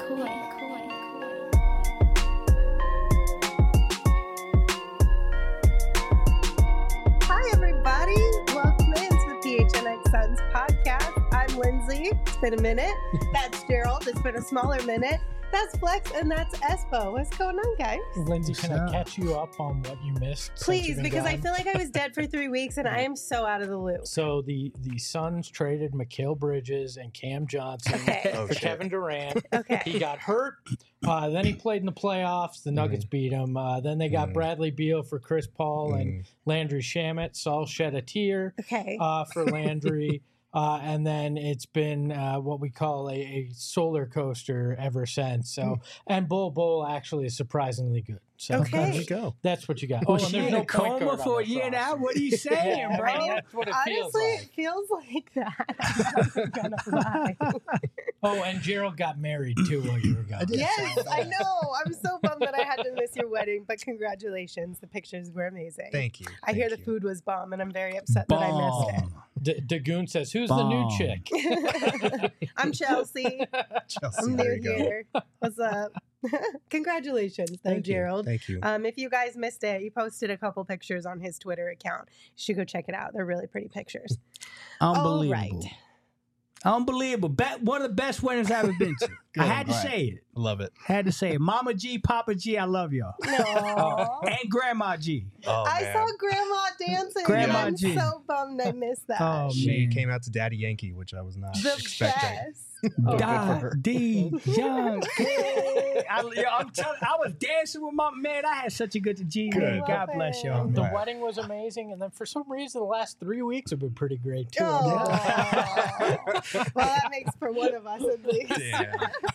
Hi, everybody. Welcome into the PHNX Suns podcast. I'm Lindsay. It's been a minute. That's Gerald. It's been a smaller minute. That's Flex, and that's Espo. What's going on, guys? Lindsay, can I catch you up on what you missed? Please, because I feel like I was dead for 3 weeks, and I am so out of the loop. So the Suns traded Mikal Bridges and Cam Johnson for Kevin Durant. Okay. He got hurt. Then he played in the playoffs. The Nuggets beat him. Then they got Bradley Beal for Chris Paul and Landry Shamet. Saul shed a tear for Landry. And then it's been what we call a solar coaster ever since. So, and Bull actually is surprisingly good. So Okay. that's what you got. Oh, and she there's in no a coma point guard for on a this year now? roster. What are you saying, Yeah, bro? I mean, that's what it Honestly, feels it feels like that. I'm gonna lie. Oh, and Gerald got married too while you were gone. Yes, I know. I'm so bummed that I had to miss your wedding, but congratulations. The pictures were amazing. Thank you. I hear the food was bomb, and I'm very upset that I missed it. Dagoon says, "Who's the new chick?" I'm Chelsea. I'm new here. What's up? Congratulations, though, Gerald. Thank you. If you guys missed it, he posted a couple pictures on his Twitter account. You should go check it out. They're really pretty pictures. Unbelievable. All right. Unbelievable. One of the best weddings I've ever been to. I had to say it. Love it. Had to say it. Mama G, Papa G, I love y'all. No. And Grandma G. Oh, I man. saw Grandma dancing. Grandma I'm G. so bummed I missed that. Oh, She man. came out to Daddy Yankee, which I was not The expecting. best. D Young. I was dancing with my man. I had such a good G. Man. Good. God bless y'all. The Man. wedding was amazing, and then for some reason, the last 3 weeks have been pretty great too. Oh. Well, that makes for one of us at least. Yeah.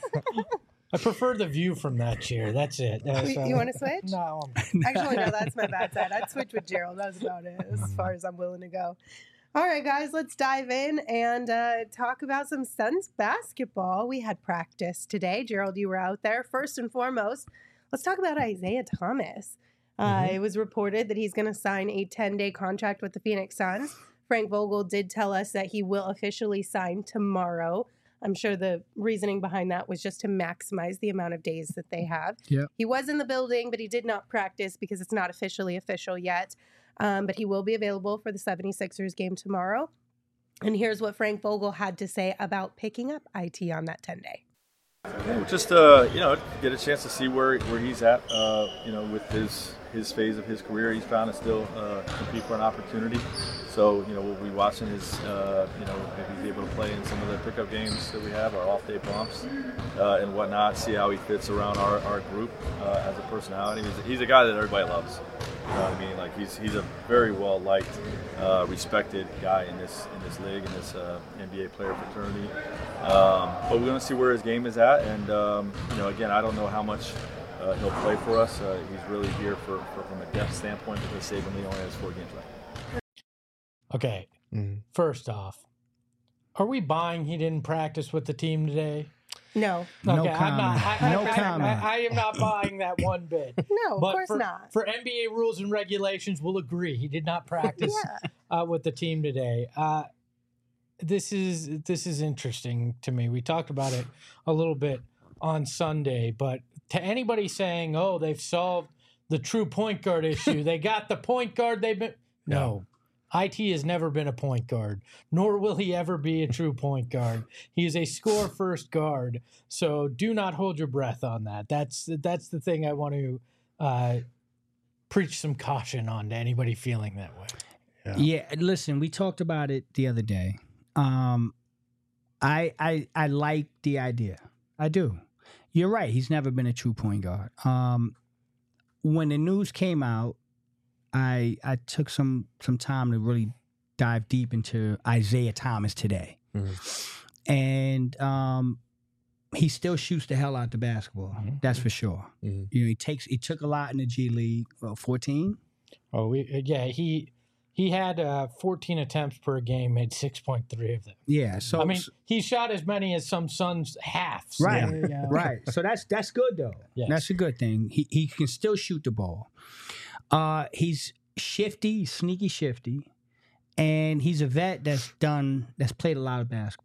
I prefer the view from that chair. That's it. You want to switch? No. Actually, no, that's my bad side. I'd switch with Gerald. That's about it as far as I'm willing to go. All right, guys, let's dive in and talk about some Suns basketball. We had practice today. Gerald, you were out there. First and foremost, let's talk about Isaiah Thomas. It was reported that he's going to sign a 10-day contract with the Phoenix Suns. Frank Vogel did tell us that he will officially sign tomorrow. I'm sure the reasoning behind that was just to maximize the amount of days that they have. Yep. He was in the building, but he did not practice because it's not officially official yet. But he will be available for the 76ers game tomorrow. And here's what Frank Vogel had to say about picking up IT on that 10-day. Just get a chance to see where he's at. With his phase of his career, he's trying to still compete for an opportunity. So we'll be watching his if he's able to play in some of the pickup games that we have, our off-day bumps and whatnot. See how he fits around our group as a personality. He's a guy that everybody loves. You know what I mean? Like he's a very well liked, respected guy in this league, in this NBA player fraternity. But we're going to see where his game is at, and again, I don't know how much he'll play for us. He's really here from a depth standpoint because Saban Lee only has 4 games left. Okay. First off, are we buying he didn't practice with the team today? No. No Okay, comment. I am not buying that one bit. No, of But course for, not. For NBA rules and regulations, we'll agree he did not practice with the team today. This is interesting to me. We talked about it a little bit on Sunday, but to anybody saying, "Oh, they've solved the true point guard issue," they got the point guard they've been. No. IT has never been a point guard, nor will he ever be a true point guard. He is a score-first guard, so do not hold your breath on that. That's the thing I want to preach some caution on to anybody feeling that way. Yeah, listen, we talked about it the other day. I like the idea. I do. You're right. He's never been a true point guard. When the news came out, I took some time to really dive deep into Isaiah Thomas today. And he still shoots the hell out the basketball. That's for sure. He took a lot in the G League. 14? Oh, he had 14 attempts per game, made 6.3 of them. Yeah, so I mean, he shot as many as some Suns halves. Right, right. So that's good though. Yes. That's a good thing. He can still shoot the ball. He's shifty, sneaky shifty, and he's a vet that's played a lot of basketball.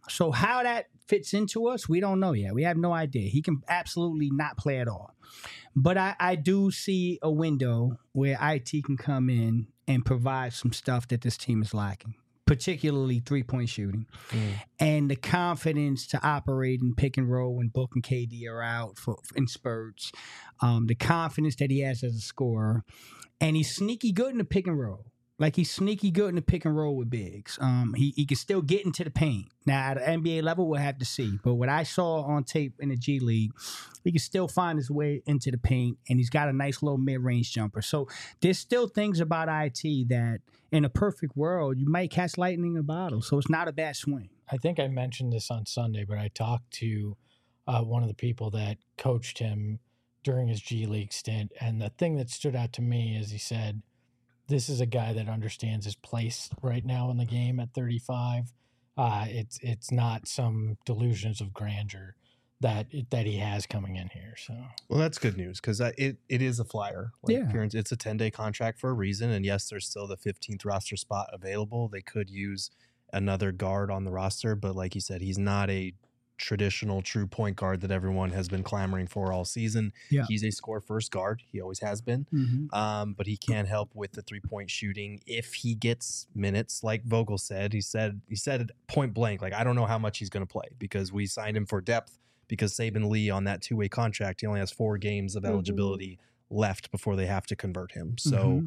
So how that fits into us, we don't know yet. We have no idea. He can absolutely not play at all. But I do see a window where IT can come in and provide some stuff that this team is lacking, particularly three-point shooting. And the confidence to operate in pick and roll when Book and KD are out in spurts. The confidence that he has as a scorer. And he's sneaky good in the pick and roll. Like, he's sneaky good in the pick and roll with bigs. He can still get into the paint. Now, at the NBA level, we'll have to see. But what I saw on tape in the G League, he can still find his way into the paint, and he's got a nice little mid-range jumper. So there's still things about IT that, in a perfect world, you might catch lightning in a bottle. So it's not a bad swing. I think I mentioned this on Sunday, but I talked to one of the people that coached him during his G League stint, and the thing that stood out to me is he said, this is a guy that understands his place right now in the game at 35. It's not some delusions of grandeur that he has coming in here. So, well, that's good news because it is a flyer. It's a 10-day contract for a reason. And yes, there's still the 15th roster spot available. They could use another guard on the roster, but like you said, he's not a traditional true point guard that everyone has been clamoring for all season. Yeah. He's a score first guard. He always has been. But he can help with the 3-point shooting if he gets minutes. Like Vogel said, he said point blank, like, I don't know how much he's going to play because we signed him for depth because Saben Lee on that 2-way contract, he only has 4 games of eligibility left before they have to convert him. So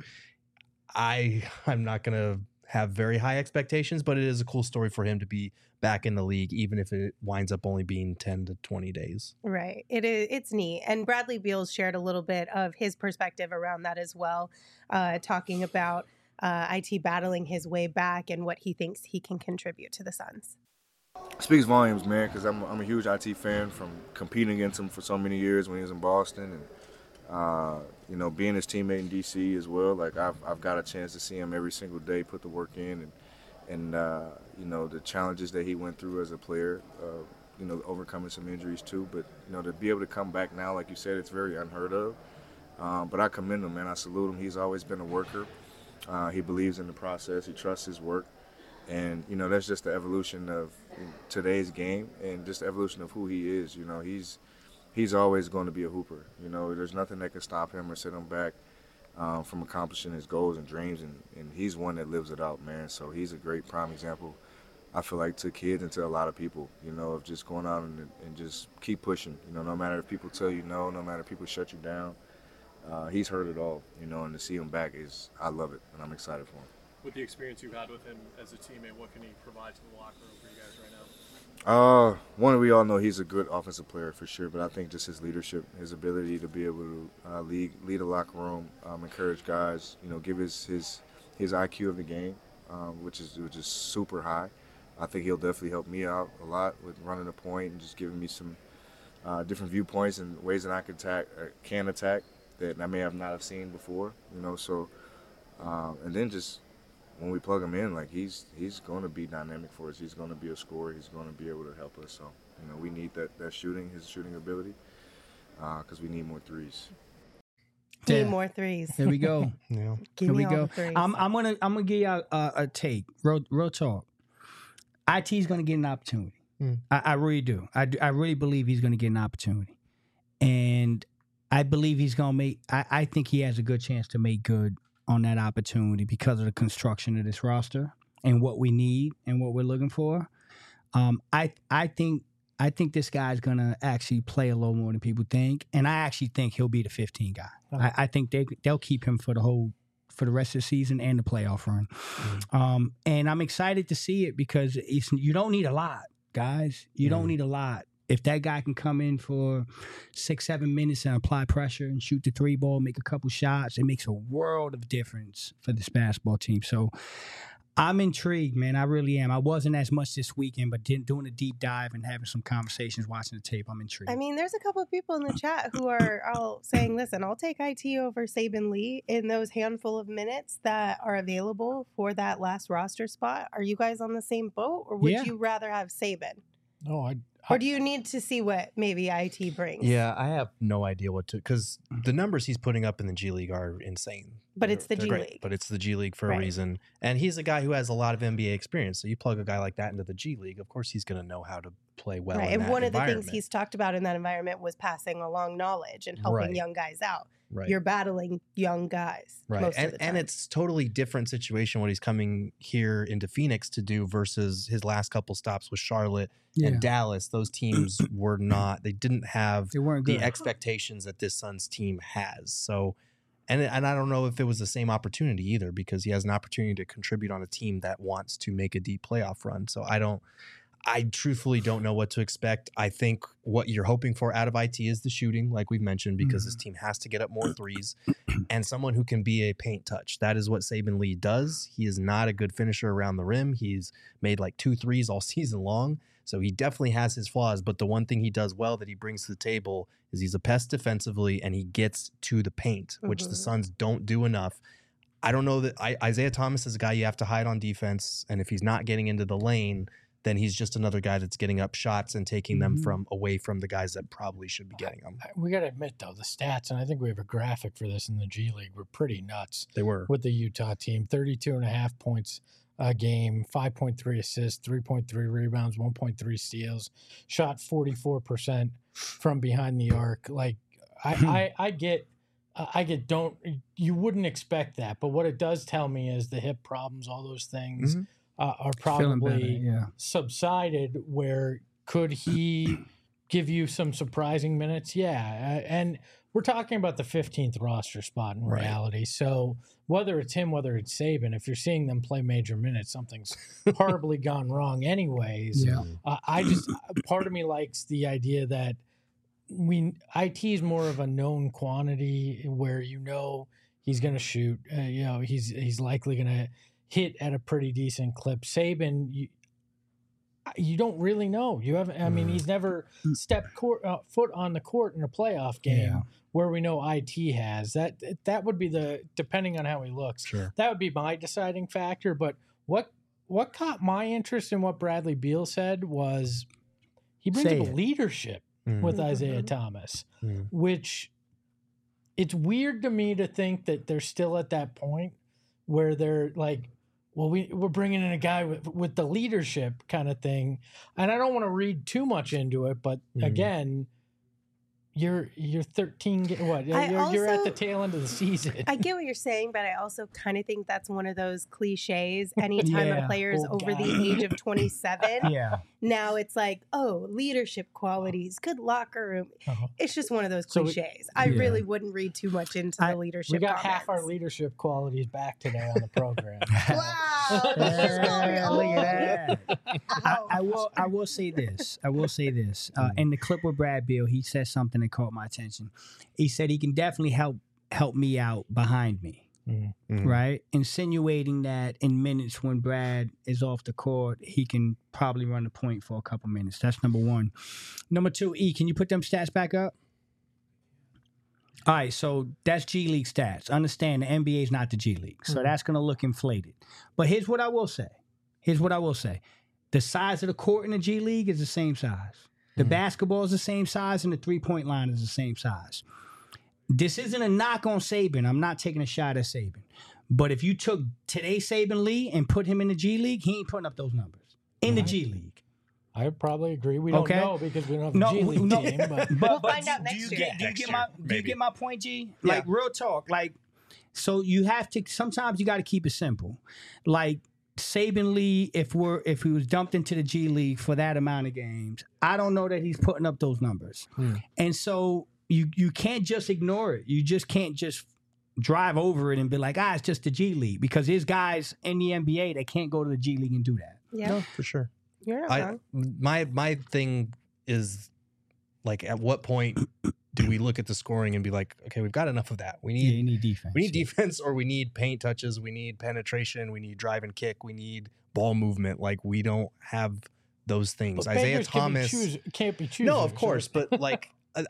I'm not going to have very high expectations, but it is a cool story for him to be back in the league, even if it winds up only being 10 to 20 days. Right. It's neat. And Bradley Beals shared a little bit of his perspective around that as well, talking about IT battling his way back and what he thinks he can contribute to the Suns. Speaks volumes, man, because I'm a huge IT fan from competing against him for so many years when he was in Boston and being his teammate in DC as well. Like, I've got a chance to see him every single day put the work in and the challenges that he went through as a player, overcoming some injuries too. But, to be able to come back now, like you said, it's very unheard of. But I commend him, man. I salute him. He's always been a worker. He believes in the process. He trusts his work. And, that's just the evolution of today's game and just the evolution of who he is. He's always going to be a hooper. There's nothing that can stop him or set him back from accomplishing his goals and dreams, and he's one that lives it out, man. So he's a great prime example, I feel like, to kids and to a lot of people, of just going out and just keep pushing. No matter if people tell you no matter if people shut you down, he's heard it all, and to see him back I love it, and I'm excited for him. With the experience you've had with him as a teammate, what can he provide to the locker room for you guys right now? One, we all know he's a good offensive player for sure, but I think just his leadership, his ability to be able to lead a locker room, encourage guys, give his IQ of the game, which is super high. I think he'll definitely help me out a lot with running the point and just giving me some different viewpoints and ways that I can attack that I may have not have seen before, So, and then just when we plug him in, like, he's going to be dynamic for us. He's going to be a scorer. He's going to be able to help us. So, we need that shooting, his shooting ability, because we need more threes. Need more threes. There we go. Yeah. Here we go. I'm gonna give you a take. Real talk. IT's gonna get an opportunity. I really do. I really believe he's gonna get an opportunity, and I believe he's gonna make. I think he has a good chance to make good on that opportunity because of the construction of this roster and what we need and what we're looking for. I think this guy's gonna actually play a little more than people think, and I actually think he'll be the 15 guy. I think they'll keep him for the rest of the season and the playoff run. And I'm excited to see it because you don't need a lot, guys. You don't need a lot. If that guy can come in for 6-7 minutes and apply pressure and shoot the 3 ball, make a couple shots, it makes a world of difference for this basketball team. So I'm intrigued, man. I really am. I wasn't as much this weekend, but doing a deep dive and having some conversations, watching the tape, I'm intrigued. I mean, there's a couple of people in the chat who are all saying, listen, I'll take IT over Saben Lee in those handful of minutes that are available for that last roster spot. Are you guys on the same boat, or would you rather have Saben? No, Or do you need to see what maybe IT brings? Yeah, I have no idea what to, because the numbers he's putting up in the G League are insane. But it's the They're G great, League. But it's the G League for Right. a reason. And he's a guy who has a lot of NBA experience. So you plug a guy like that into the G League, of course he's going to know how to play well Right. in And that one of the things environment. he's talked about in that environment was passing along knowledge and helping Right. young guys out. Right. You're battling young guys Right. most of the time. And it's totally different situation what he's coming here into Phoenix to do versus his last couple stops with Charlotte and Dallas. Those teams were not, they didn't have They weren't the good. expectations that this Suns team has. So, and I don't know if it was the same opportunity either, because he has an opportunity to contribute on a team that wants to make a deep playoff run. So I truthfully don't know what to expect. I think what you're hoping for out of IT is the shooting, like we've mentioned, because this team has to get up more threes and someone who can be a paint touch. That is what Saben Lee does. He is not a good finisher around the rim. He's made like 2 threes all season long. So he definitely has his flaws. But the one thing he does well that he brings to the table is he's a pest defensively and he gets to the paint, which the Suns don't do enough. I don't know that Isaiah Thomas is a guy you have to hide on defense. And if he's not getting into the lane, then he's just another guy that's getting up shots and taking them from away from the guys that probably should be getting them. We got to admit, though, the stats, and I think we have a graphic for this in the G League, were pretty nuts. They were. With the Utah team, 32.5 points a game, 5.3 assists, 3.3 rebounds, 1.3 steals, shot 44% from behind the arc. Like, I get, you wouldn't expect that, but what it does tell me is the hip problems, all those things are probably subsided. Where could he give you some surprising minutes? Yeah. And we're talking about the 15th roster spot in reality. So whether it's him, whether it's Saben, if you're seeing them play major minutes, something's horribly gone wrong anyways. Part of me likes the idea that IT is more of a known quantity where he's going to shoot. He's likely going to hit at a pretty decent clip. Saben, you don't really know. You haven't. I mean, he's never stepped foot on the court in a playoff game where we know IT has. That would be depending on how he looks. Sure. That would be my deciding factor. But what caught my interest in what Bradley Beal said was he brings up leadership with Isaiah Thomas, which it's weird to me to think that they're still at that point where they're like, well, we're bringing in a guy with the leadership kind of thing. And I don't want to read too much into it, but again, you're 13. You're at the tail end of the season. I get what you're saying, but I also kind of think that's one of those cliches. Anytime a player is over the age of 27, now it's like, oh, leadership qualities, good locker room. It's just one of those cliches. I really wouldn't read too much into the leadership. We got comments. half our leadership qualities back today on the program. Wow. Look at that. I will say this. In the clip with Brad Beal, he said something that caught my attention. He said he can definitely help me out behind me. Right? Insinuating that in minutes when Brad is off the court, he can probably run the point for a couple minutes. That's number one. Number two, E, can you put them stats back up? All right, so that's G League stats. Understand the NBA is not the G League, so that's going to look inflated. But here's what I will say. The size of the court in the G League is the same size. The basketball is the same size, and the three-point line is the same size. This isn't a knock on Saben. I'm not taking a shot at Saben. But if you took today's Saben Lee and put him in the G League, he ain't putting up those numbers in the G League. I would probably agree. We don't know because we don't have a G League team. But we'll find out next year. Do you get my point, G? Like, real talk. Like, so you have to, sometimes you got to keep it simple. Like, Saben Lee, if he was dumped into the G League for that amount of games, I don't know that he's putting up those numbers. And so you can't just ignore it. You just can't just drive over it and be like, it's just the G League, because there's guys in the NBA that can't go to the G League and do that. Yeah, No, for sure. you're not wrong. My thing is, like, at what point do we look at the scoring and be like, okay, we've got enough of that. We need you need defense. We need defense, or we need paint touches. We need penetration. We need drive and kick. We need ball movement. Like, we don't have those things. But Isaiah beggars Thomas can't be choosers. No, of course, but like,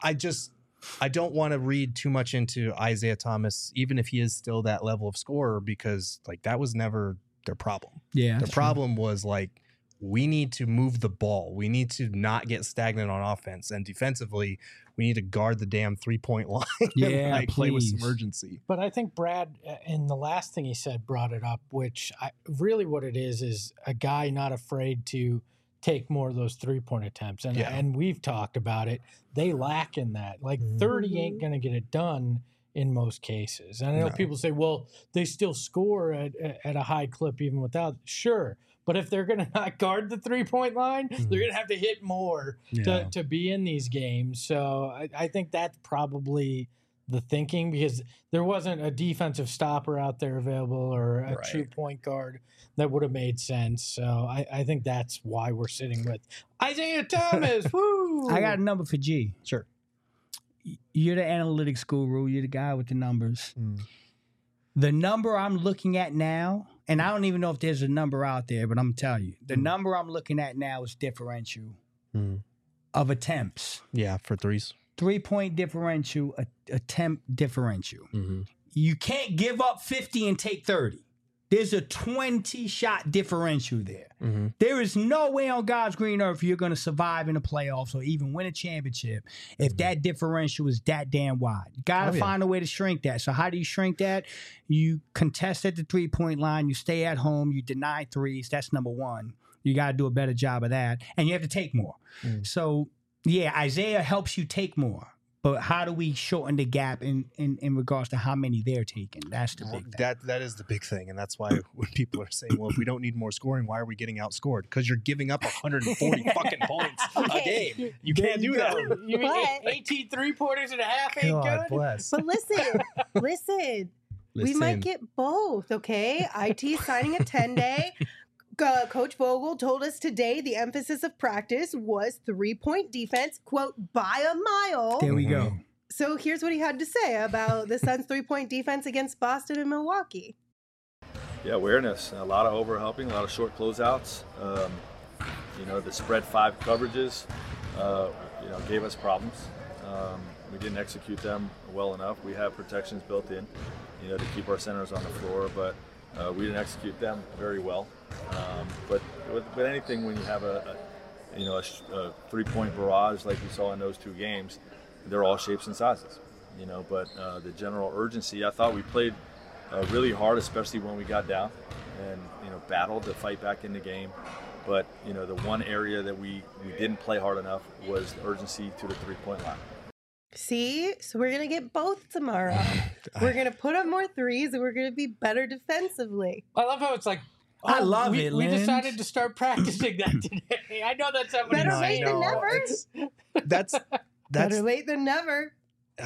I don't want to read too much into Isaiah Thomas, even if he is still that level of scorer, because like that was never their problem. Yeah, Their problem was like, we need to move the ball. We need to not get stagnant on offense. And defensively, we need to guard the damn 3-point line and play with some urgency. But I think Brad, in the last thing he said, brought it up, which really what it is a guy not afraid to take more of those 3-point attempts. And we've talked about it. They lack in that. Like 30 ain't going to get it done in most cases. And I know people say, well, they still score at a high clip even without. Sure. But if they're going to not guard the 3-point line, they're going to have to hit more to be in these games. So I think that's probably the thinking, because there wasn't a defensive stopper out there available or a true point guard that would have made sense. So I think that's why we're sitting with Isaiah Thomas. Woo! I got a number for G. Sure. You're the analytics guru. You're the guy with the numbers. The number I'm looking at now, and I don't even know if there's a number out there, but I'm going to tell you. The number I'm looking at now is differential of attempts. Yeah, for threes. 3-point differential, attempt differential. You can't give up 50 and take 30. There's a 20-shot differential there. There is no way on God's green earth you're going to survive in the playoffs or even win a championship if that differential is that damn wide. You got to find a way to shrink that. So how do you shrink that? You contest at the 3-point line. You stay at home. You deny threes. That's number one. You got to do a better job of that. And you have to take more. So, yeah, Isaiah helps you take more. But how do we shorten the gap in regards to how many they're taking? That's the big thing. That is the big thing. And that's why when people are saying, well, if we don't need more scoring, why are we getting outscored? Because you're giving up 140 fucking points a game. You can't do that. You mean 18 3-pointers and a half ain't God good? bless. But listen. We might get both, okay? IT signing a 10-day. Coach Vogel told us today the emphasis of practice was 3-point defense, quote, by a mile. There we go. So here's what he had to say about the Suns' 3-point defense against Boston and Milwaukee. Yeah, awareness. A lot of overhelping, a lot of short closeouts. The spread 5 coverages, gave us problems. We didn't execute them well enough. We have protections built in, to keep our centers on the floor, but we didn't execute them very well. But with anything, when you have a 3-point barrage like we saw in those 2 games, they're all shapes and sizes. But the general urgency, I thought we played really hard, especially when we got down, and battled to fight back in the game. But the one area that we didn't play hard enough was the urgency to the 3-point line. See? So we're going to get both tomorrow. We're going to put up more threes, and we're going to be better defensively. I love how it's like, I love it, We Lynn. decided to start practicing that today. I know that's not what Better he's late saying. than never. That's Better late than never.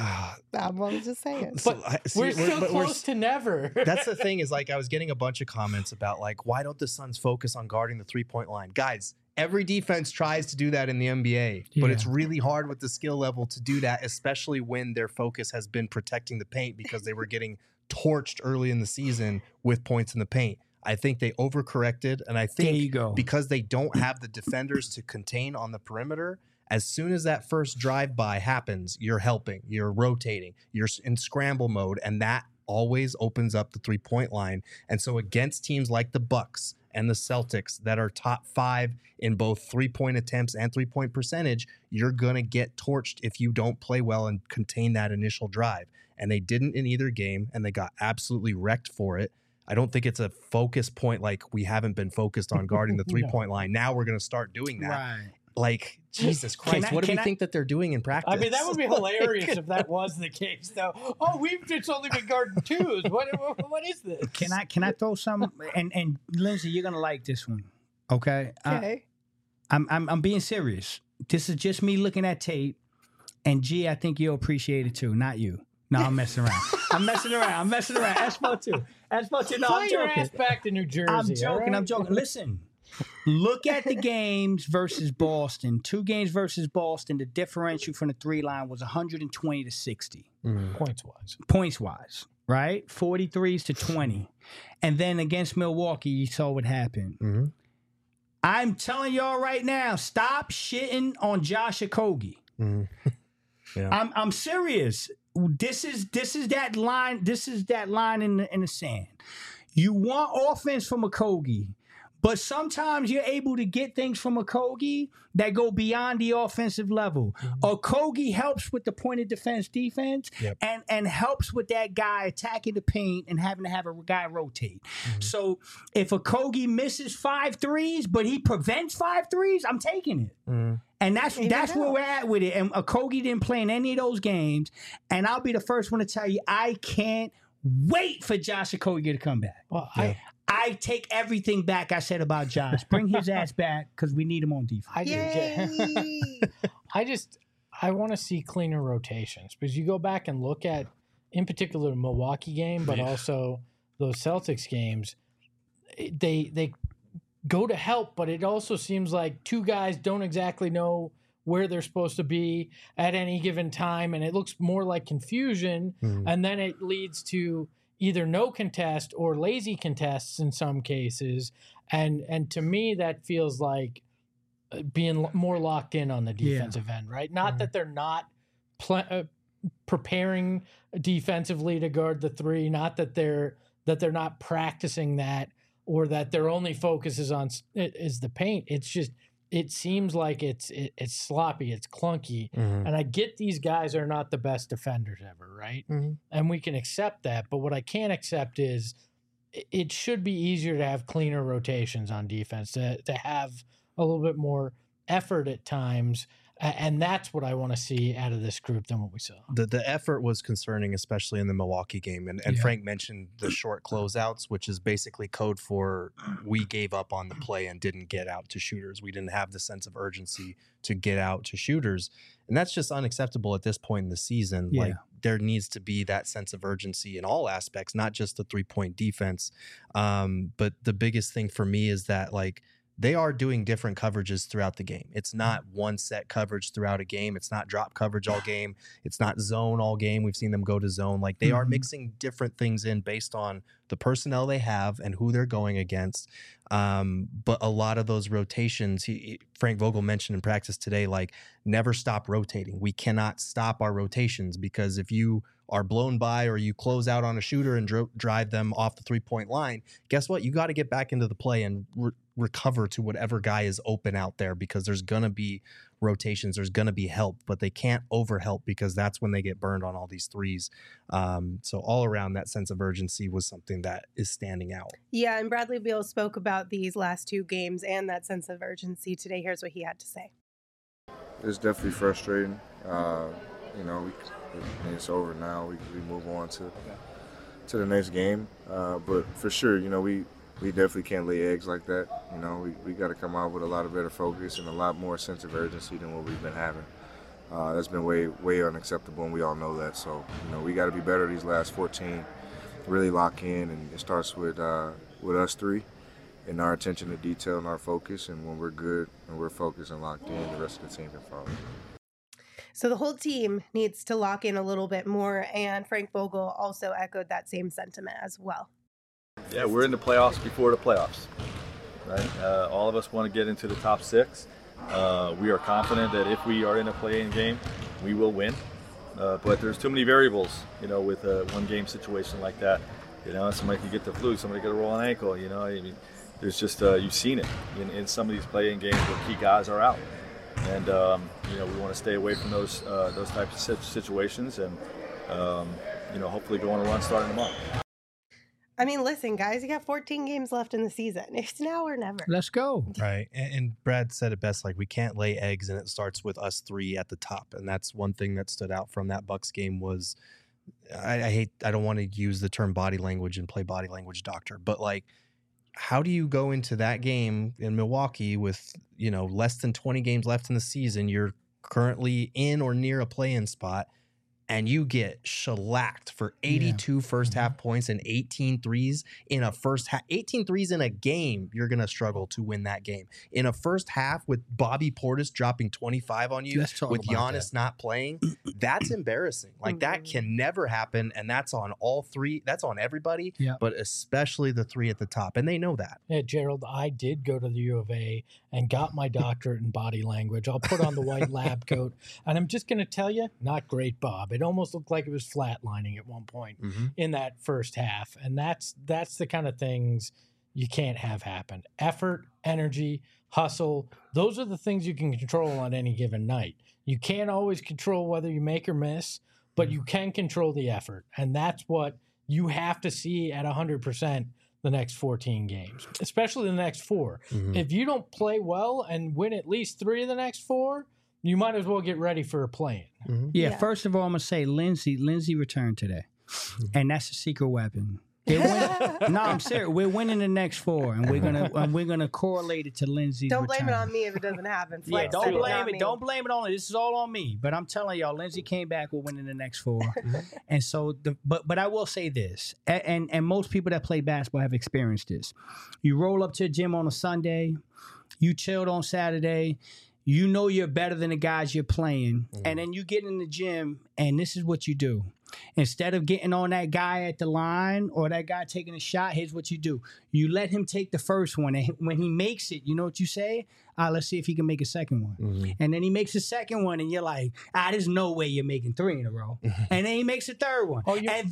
I'm just saying. But we're still close to never. That's the thing is, like, I was getting a bunch of comments about, like, why don't the Suns focus on guarding the 3-point line? Guys, every defense tries to do that in the NBA, but it's really hard with the skill level to do that, especially when their focus has been protecting the paint because they were getting torched early in the season with points in the paint. I think they overcorrected, and I think because they don't have the defenders to contain on the perimeter, as soon as that first drive-by happens, you're helping, you're rotating, you're in scramble mode, and that always opens up the 3-point line. And so against teams like the Bucks and the Celtics that are top 5 in both 3-point attempts and 3-point percentage, you're going to get torched if you don't play well and contain that initial drive. And they didn't in either game, and they got absolutely wrecked for it. I don't think it's a focus point like we haven't been focused on guarding the 3-point line. Now we're going to start doing that. Right. Like, Jesus Christ, what do we think that they're doing in practice? I mean, that would be hilarious if that was the case, though. Oh, we've just only been guarding 2s. What is this? Can I throw some? And Lindsay, you're gonna like this one, okay? Okay. I'm being serious. This is just me looking at tape, and G, I think you'll appreciate it too. Not you. No, I'm messing around. I'm messing around. Espo too. No, Fly I'm your joking. ass back to New Jersey. I'm joking. Right? Listen, look at the games versus Boston. 2 games versus Boston. The differential from the 3 line was 120 to 60. Points wise, right? 43s to 20. And then against Milwaukee, you saw what happened. I'm telling y'all right now, stop shitting on Josh Okogie. Yeah. I'm serious. This is that line. This is that line in the sand. You want offense from Okogie, But sometimes you're able to get things from Okogie that go beyond the offensive level. Okogie helps with the point of defense and helps with that guy attacking the paint and having to have a guy rotate. So if Okogie misses 5 threes, but he prevents 5 threes, I'm taking it. And that's where we're at with it. And Okogie didn't play in any of those games. And I'll be the first one to tell you, I can't wait for Josh Okogie to come back. Well, I take everything back I said about Josh. Bring his ass back because we need him on defense. I want to see cleaner rotations because you go back and look at, in particular, the Milwaukee game, but also those Celtics games. They go to help, but it also seems like 2 guys don't exactly know where they're supposed to be at any given time, and it looks more like confusion, and then it leads to either no contest or lazy contests in some cases. And to me, that feels like being more locked in on the defensive end, right? Not that they're not preparing defensively to guard the 3, not that they're not practicing that, or that their only focus is the paint. It's just, it seems like it's sloppy, it's clunky. And I get these guys are not the best defenders ever, right? And we can accept that. But what I can't accept is it should be easier to have cleaner rotations on defense, to have a little bit more effort at times. And that's what I want to see out of this group than what we saw. The effort was concerning, especially in the Milwaukee game. And Frank mentioned the short closeouts, which is basically code for we gave up on the play and didn't get out to shooters. We didn't have the sense of urgency to get out to shooters. And that's just unacceptable at this point in the season. Like, there needs to be that sense of urgency in all aspects, not just the 3-point defense. But the biggest thing for me is that, like, they are doing different coverages throughout the game. It's not one set coverage throughout a game. It's not drop coverage all game. It's not zone all game. We've seen them go to zone. Like, they are mixing different things in based on the personnel they have and who they're going against. But a lot of those rotations, Frank Vogel mentioned in practice today, like, never stop rotating. We cannot stop our rotations, because if you are blown by or you close out on a shooter and drive them off the 3-point line, guess what? You got to get back into the play and recover to whatever guy is open out there, because there's going to be rotations, there's going to be help, but they can't overhelp, because that's when they get burned on all these threes. So all around, that sense of urgency was something that is standing out. Yeah, and Bradley Beal spoke about these last 2 games and that sense of urgency today. Here's what he had to say. It's definitely frustrating. It's over now. We move on to the next game. But for sure, we definitely can't lay eggs like that. We got to come out with a lot of better focus and a lot more sense of urgency than what we've been having. That's been way unacceptable, and we all know that. So, we got to be better these last 14, really lock in, and it starts with us 3 and our attention to detail and our focus. And when we're good and we're focused and locked in, the rest of the team can follow. So the whole team needs to lock in a little bit more, and Frank Vogel also echoed that same sentiment as well. Yeah, we're in the playoffs before the playoffs, right? All of us want to get into the top 6. We are confident that if we are in a play-in game, we will win. But there's too many variables, with a one-game situation like that. Somebody could get the flu, somebody could roll an ankle. There's just you've seen it in some of these play-in games where key guys are out. And we want to stay away from those types of situations, and hopefully go on a run starting tomorrow. I mean, listen, guys, you got 14 games left in the season. It's now or never. Let's go. Right. And Brad said it best, like, we can't lay eggs, and it starts with us 3 at the top. And that's one thing that stood out from that Bucks game was, I don't want to use the term body language and play body language doctor, but, like, how do you go into that game in Milwaukee with, less than 20 games left in the season? You're currently in or near a play-in spot, and you get shellacked for 82 first half points and 18 threes in a first half. 18 threes in a game, you're going to struggle to win that game. In a first half with Bobby Portis dropping 25 on you, with Giannis not playing, that's embarrassing. Like, that can never happen, and that's on all 3. That's on everybody, but especially the 3 at the top, and they know that. Yeah, Gerald, I did go to the U of A and got my doctorate in body language. I'll put on the white lab coat, and I'm just going to tell you, not great, Bob. It almost looked like it was flatlining at one point in that first half. And that's the kind of things you can't have happen. Effort, energy, hustle, those are the things you can control on any given night. You can't always control whether you make or miss, but you can control the effort. And that's what you have to see at 100% the next 14 games, especially the next 4. If you don't play well and win at least 3 of the next 4, you might as well get ready for a play-in. Yeah, first of all, I'm going to say Lindsay returned today. And that's a secret weapon. No, I'm serious. We're winning the next 4, and we're gonna correlate it to Lindsay's Don't blame return. it on me if it doesn't happen. Yeah, Flex don't it, blame not it. me. Don't blame it on it. This is all on me. But I'm telling y'all, Lindsay came back. We're winning the next 4, and so but I will say this, and most people that play basketball have experienced this. You roll up to the gym on a Sunday, you chilled on Saturday. You know you're better than the guys you're playing, and then you get in the gym, and this is what you do. Instead of getting on that guy at the line or that guy taking a shot, here's what you do. You let him take the first one. And when he makes it, you know what you say? Let's see if he can make a second one. And then he makes a second one, and you're like, there's no way you're making 3 in a row. And then he makes a third one. And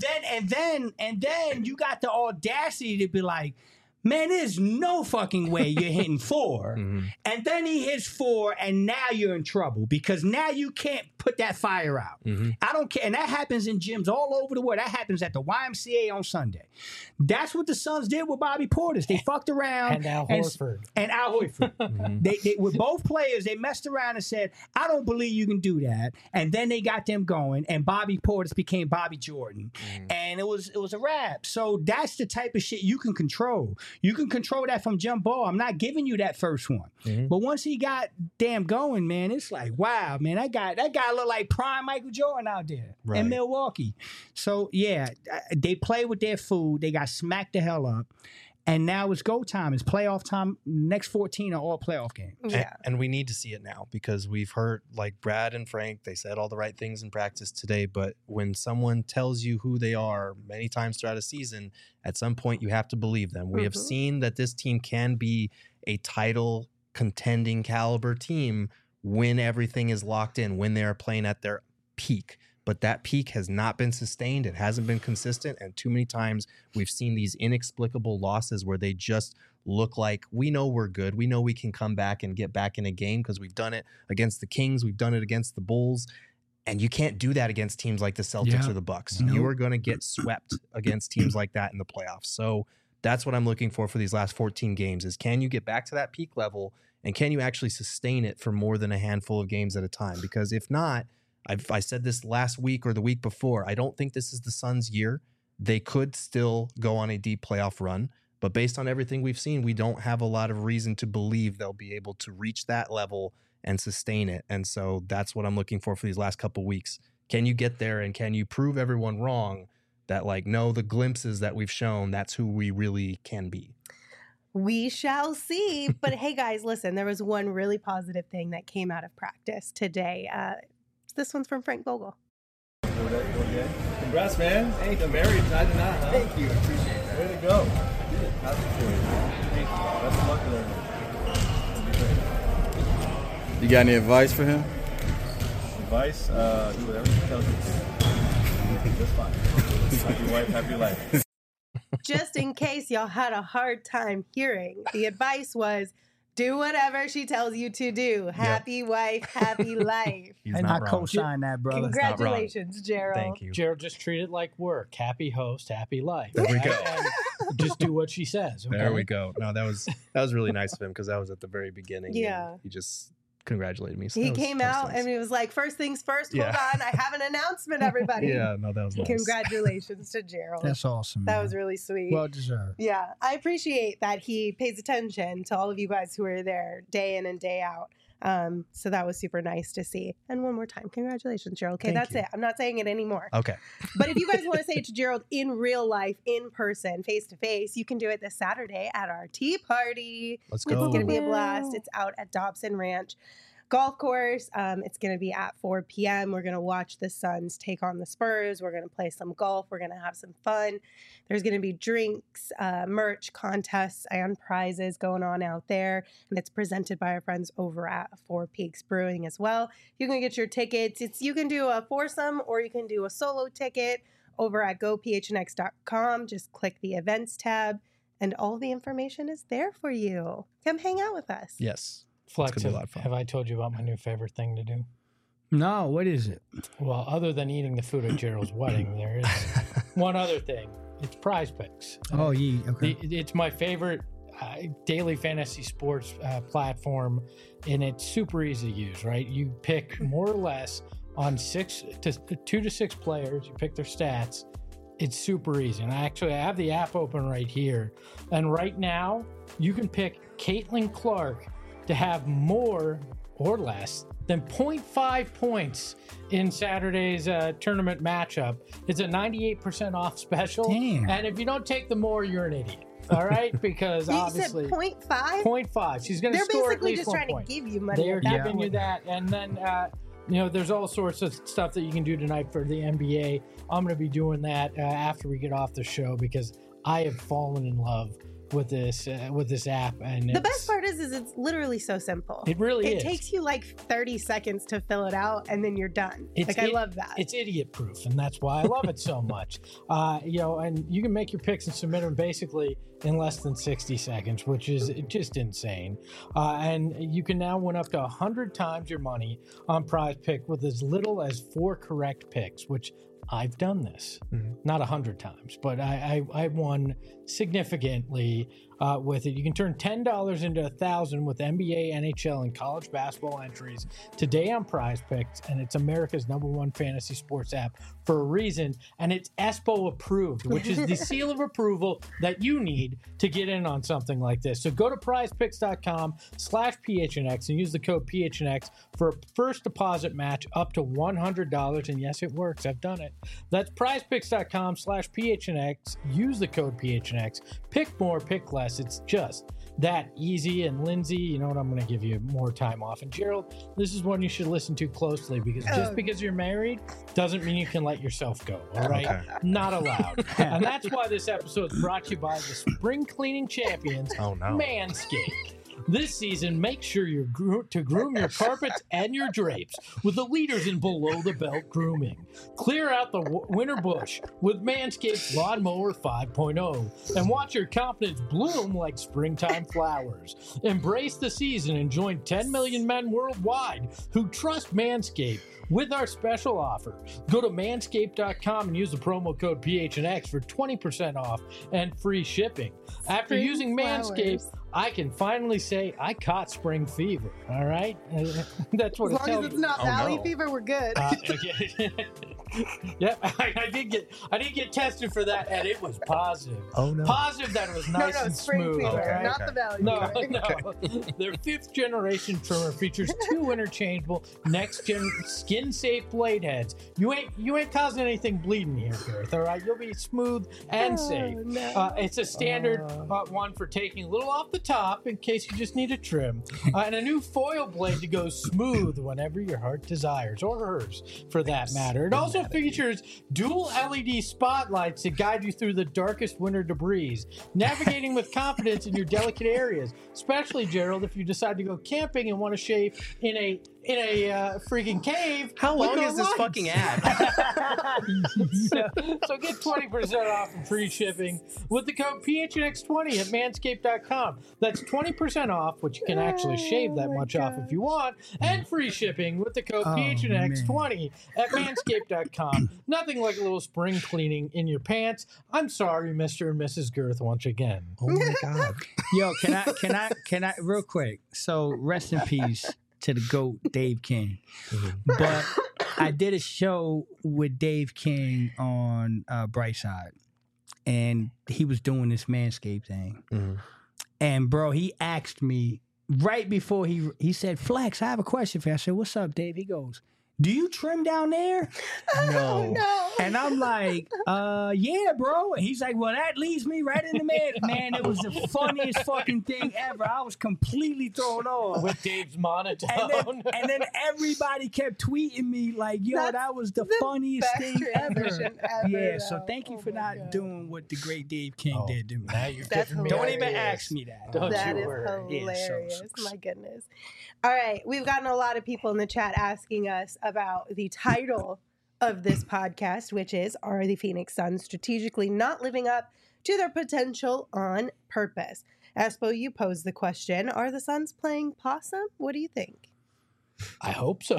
then you got the audacity to be like, man, there's no fucking way you're hitting 4. And then he hits 4, and now you're in trouble because now you can't put that fire out. I don't care. And that happens in gyms all over the world. That happens at the YMCA on Sunday. That's what the Suns did with Bobby Portis. They fucked around. And Al Horford. And Al Horford. They with both players, they messed around and said, I don't believe you can do that. And then they got them going, and Bobby Portis became Bobby Jordan. And it was a wrap. So that's the type of shit you can control. You can control that from jump ball. I'm not giving you that first one. But once he got damn going, man, it's like, wow, man, that guy looked like prime Michael Jordan out there in Milwaukee. So, yeah, they play with their food. They got smacked the hell up. And now it's go time. It's playoff time. Next 14 are all playoff games. Yeah. And we need to see it now because we've heard, like Brad and Frank, they said all the right things in practice today. But when someone tells you who they are many times throughout a season, at some point you have to believe them. We have seen that this team can be a title contending caliber team when everything is locked in, when they are playing at their peak. But that peak has not been sustained. It hasn't been consistent. And too many times we've seen these inexplicable losses where they just look like we know we're good. We know we can come back and get back in a game because we've done it against the Kings. We've done it against the Bulls. And you can't do that against teams like the Celtics or the Bucks. Nope. You are going to get swept against teams like that in the playoffs. So that's what I'm looking for these last 14 games is can you get back to that peak level and can you actually sustain it for more than a handful of games at a time? Because if not, I said this last week or the week before, I don't think this is the Suns' year. They could still go on a deep playoff run, but based on everything we've seen, we don't have a lot of reason to believe they'll be able to reach that level and sustain it. And so that's what I'm looking for these last couple weeks. Can you get there and can you prove everyone wrong that like, no, the glimpses that we've shown, that's who we really can be? We shall see. But hey, guys, listen, there was one really positive thing that came out of practice today. This one's from Frank Vogel. Congrats, man. Hey, the married tied to not, huh? Thank you. Appreciate that. Way to go. Happy for you. Thank you. Best of luck with everything. You got any advice for him? Advice? Do whatever he tells you. Just fine. Happy wife, happy life. Just in case y'all had a hard time hearing, the advice was do whatever she tells you to do. Happy wife, happy life. And I co-sign that, brother. Congratulations, Gerald. Thank you. Gerald, just treat it like work. Happy host, happy life. There we go. And just do what she says. Okay? There we go. No, that was really nice of him because that was at the very beginning. Yeah. And he just congratulated me. So He that was- came that was out nice. and he was like, first things first, Yeah. hold on, I have an announcement, everybody. Yeah, no, that was nice. Congratulations to Gerald. That's awesome. That man. was really sweet. well deserved. Yeah, I appreciate that he pays attention to all of you guys who are there day in and day out. So that was super nice to see. And one more time, congratulations, Gerald. Okay, Thank that's you. it. I'm not saying it anymore. Okay. But if you guys want to say it to Gerald in real life, in person, face to face, you can do it this Saturday at our tea party. Let's It's go. going to be a blast. It's out at Dobson Ranch Golf Course. It's going to be at 4 p.m. We're going to watch the Suns take on the Spurs. We're going to play some golf. We're going to have some fun. There's going to be drinks, merch, contests, and prizes going on out there. And it's presented by our friends over at Four Peaks Brewing as well. You can get your tickets. You can do a foursome or you can do a solo ticket over at gophnx.com. Just click the events tab and all the information is there for you. Come hang out with us. Yes. Flex, It's gonna be a lot of fun. have I told you about my new favorite thing to do? No, what is it? Well, other than eating the food at Gerald's wedding, there is one other thing. It's Prize Picks. Oh, yeah. Okay. It's my favorite daily fantasy sports platform, and it's super easy to use, right? You pick more or less on 2 to 6 players. You pick their stats. It's super easy. And I have the app open right here. And right now, you can pick Caitlin Clark to have more or less than 0.5 points in Saturday's tournament matchup. It's a 98% off special. Damn. And if you don't take the more, you're an idiot. All right, because You obviously said 0.5? 0.5. She's going to They're score at basically least just 1 trying point. to give you money. They're at that giving you point. that, and then there's all sorts of stuff that you can do tonight for the NBA. I'm going to be doing that after we get off the show because I have fallen in love with this app, and The best part is it's literally so simple. It really is. It takes you like 30 seconds to fill it out, and then you're done. I love that. It's idiot proof, and that's why I love it so much. And you can make your picks and submit them basically in less than 60 seconds, which is just insane. And you can now win up to 100 times your money on Prize Pick with as little as 4 correct picks, which I've done this, not 100 times, but I won significantly with it. You can turn $10 into $1,000 with NBA, NHL, and college basketball entries today on Prize Picks, and it's America's #1 fantasy sports app for a reason, and it's ESPO approved, which is the seal of approval that you need to get in on something like this. So go to prizepicks.com/PHNX and use the code PHNX for a first deposit match up to $100, and yes, it works. I've done it. That's prizepicks.com/PHNX. Use the code PHNX. Pick more, pick less. It's just that easy. And Lindsay, you know what? I'm going to give you more time off. And Gerald, this is one you should listen to closely because just because you're married doesn't mean you can let yourself go. All right? Okay. Not allowed. And that's why this episode is brought to you by the spring cleaning champions, Manscaped. This season, make sure to groom your carpets and your drapes with the leaders in below-the-belt grooming. Clear out the winter bush with Manscaped Lawnmower 5.0 and watch your confidence bloom like springtime flowers. Embrace the season and join 10 million men worldwide who trust Manscaped with our special offer. Go to manscaped.com and use the promo code PHNX for 20% off and free shipping. After using Manscaped, I can finally say I caught spring fever. All right, that's what as long as it's not valley no. fever, we're good. Yeah, I did get tested for that, and it was positive. Oh no! Positive that it was nice no, and spring smooth. fever, okay? not the valley No, fever. no. Their 5th generation trimmer features 2 interchangeable next-gen skin-safe blade heads. You ain't causing anything bleeding here, Gareth. All right, you'll be smooth and safe. No. It's a standard one for taking a little off the top in case you just need a trim, and a new foil blade to go smooth whenever your heart desires, or hers, for that matter. It also features dual LED spotlights to guide you through the darkest winter debris, navigating with confidence in your delicate areas, especially, Gerald, if you decide to go camping and want to shave in a freaking cave. How with long no is this lights. fucking ad? So get 20% off and free shipping with the code PHNX20 at manscaped.com. That's 20% off, which you can actually shave that much off if you want, and free shipping with the code PHNX20 at manscaped.com. Nothing like a little spring cleaning in your pants. I'm sorry, Mr. and Mrs. Girth, once again. Oh my god! Yo, can I real quick? So rest in peace to the GOAT, Dave King. But I did a show with Dave King on Brightside, and he was doing this Manscaped thing. And bro, he asked me right before he said, "Flex, I have a question for you." I said, "What's up, Dave?" He goes, "Do you trim down there?" No. And I'm like, yeah, bro. And he's like, well, that leads me right in the man. It was the funniest fucking thing ever. I was completely thrown off. With Dave's monotone. And then everybody kept tweeting me like, yo, that was the funniest best thing ever. transition ever, Yeah, so though. thank you Oh for my not God. doing what the great Dave King did to me. Now you're That's giving me Don't even ideas. ask me that. Don't That you is worry. hilarious. Yeah, so- My goodness. All right. We've gotten a lot of people in the chat asking us about the title of this podcast, which is, are the Phoenix Suns strategically not living up to their potential on purpose. Espo, you posed the question, are the Suns playing possum? What do you think? I hope so.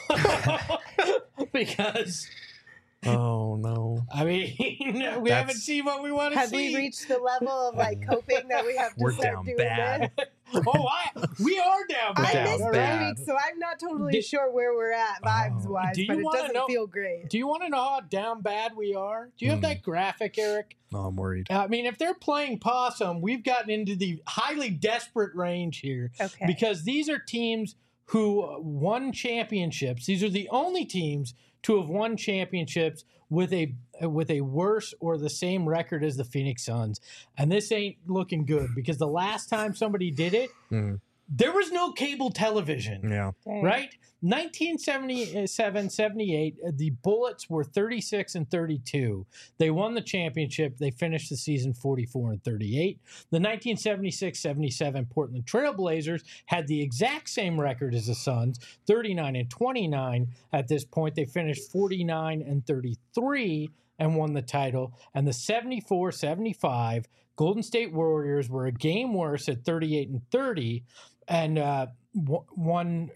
Because... Oh no! I mean, we haven't seen what we want to see. Have we reached the level of coping that we have to We're start down doing bad. this? We are down bad. I missed bad. 3 weeks, so I'm not totally sure where we're at vibes-wise, Do but you it wanna doesn't know- feel great. Do you want to know how down bad we are? Do you have that graphic, Eric? No, I'm worried. I mean, if they're playing possum, we've gotten into the highly desperate range here. Okay. Because these are teams who won championships. These are the only teams to have won championships with a worse or the same record as the Phoenix Suns. And this ain't looking good because the last time somebody did it, there was no cable television. Yeah. Right? 1977-78, the Bullets were 36-32. They won the championship. They finished the season 44-38. The 1976-77 Portland Trail Blazers had the exact same record as the Suns, 39-29. At this point, they finished 49-33 and won the title. And the 74-75 Golden State Warriors were a game worse at 38-30 and won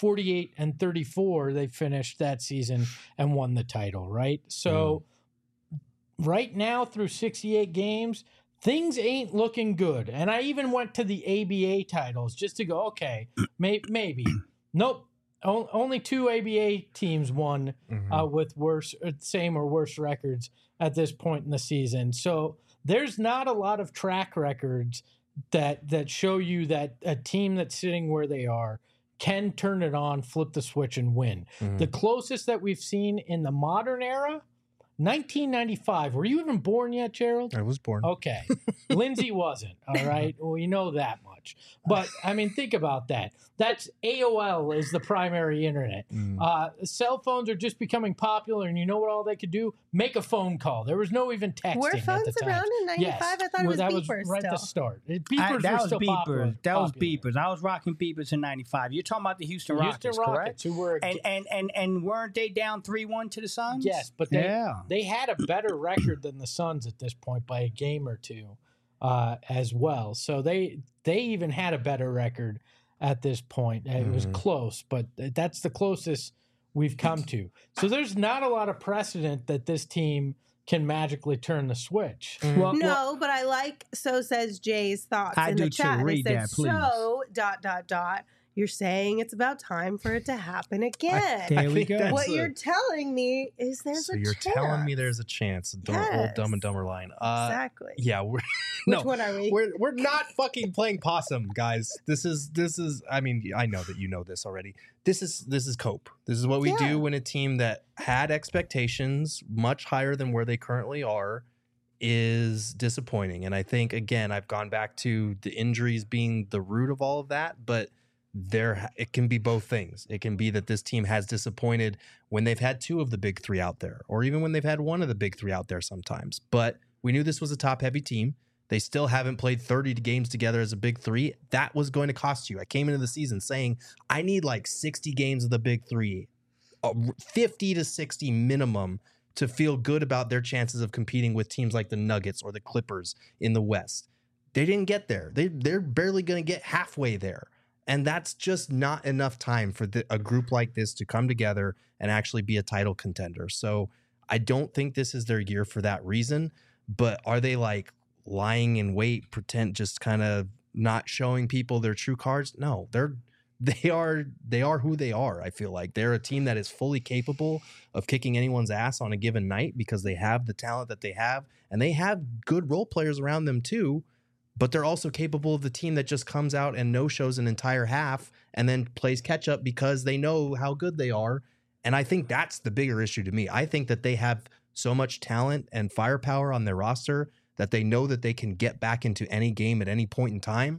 48-34. They finished that season and won the title, right? So right now through 68 games, things ain't looking good. And I even went to the ABA titles just to go, okay, maybe. Nope. Only 2 ABA teams won with same or worse records at this point in the season. So there's not a lot of track records that show you that a team that's sitting where they are can turn it on, flip the switch, and win. The closest that we've seen in the modern era, 1995. Were you even born yet, Gerald? I was born. Okay. Lindsay wasn't, all right? Well, you know that much. But, I mean, think about that. That's AOL is the primary internet. Cell phones are just becoming popular, and you know what all they could do? Make a phone call. There was no even texting Were phones at the time. around in 95? Yes. I thought it was that beepers was right still. at the start. Beepers that were was still beepers. popular. That was beepers. I was rocking beepers in '95. You're talking about the Houston Rockets, correct? Who were And weren't they down 3-1 to the Suns? yes, but they had a better record than the Suns at this point by a game or two as well. So they even had a better record at this point. It was close, but that's the closest we've come to. So there's not a lot of precedent that this team can magically turn the switch. No, but I like So Says Jay's thoughts I in do the too. chat. Read They said, that, please. So, ... You're saying it's about time for it to happen again. There we go. What you're telling me is there's So a you're chance. telling me there's a chance. The old Dumb and Dumber line. Exactly. Yeah, we're Which one are we? We're not fucking playing possum, guys. This is. I mean, I know that you know this already. This is cope. This is what we do when a team that had expectations much higher than where they currently are is disappointing. And I think again, I've gone back to the injuries being the root of all of that, but it can be both things. It can be that this team has disappointed when they've had 2 of the big 3 out there, or even when they've had 1 of the big 3 out there sometimes. But we knew this was a top-heavy team. They still haven't played 30 games together as a big 3. That was going to cost you. I came into the season saying, I need like 60 games of the big 3, 50 to 60 minimum to feel good about their chances of competing with teams like the Nuggets or the Clippers in the West. They didn't get there. They're barely going to get halfway there. And that's just not enough time for a group like this to come together and actually be a title contender. So I don't think this is their year for that reason. But are they like lying in wait, pretend, just kind of not showing people their true cards? No, they are who they are. I feel like they're a team that is fully capable of kicking anyone's ass on a given night because they have the talent that they have, and they have good role players around them too. But they're also capable of the team that just comes out and no-shows an entire half and then plays catch-up because they know how good they are. And I think that's the bigger issue to me. I think that they have so much talent and firepower on their roster that they know that they can get back into any game at any point in time.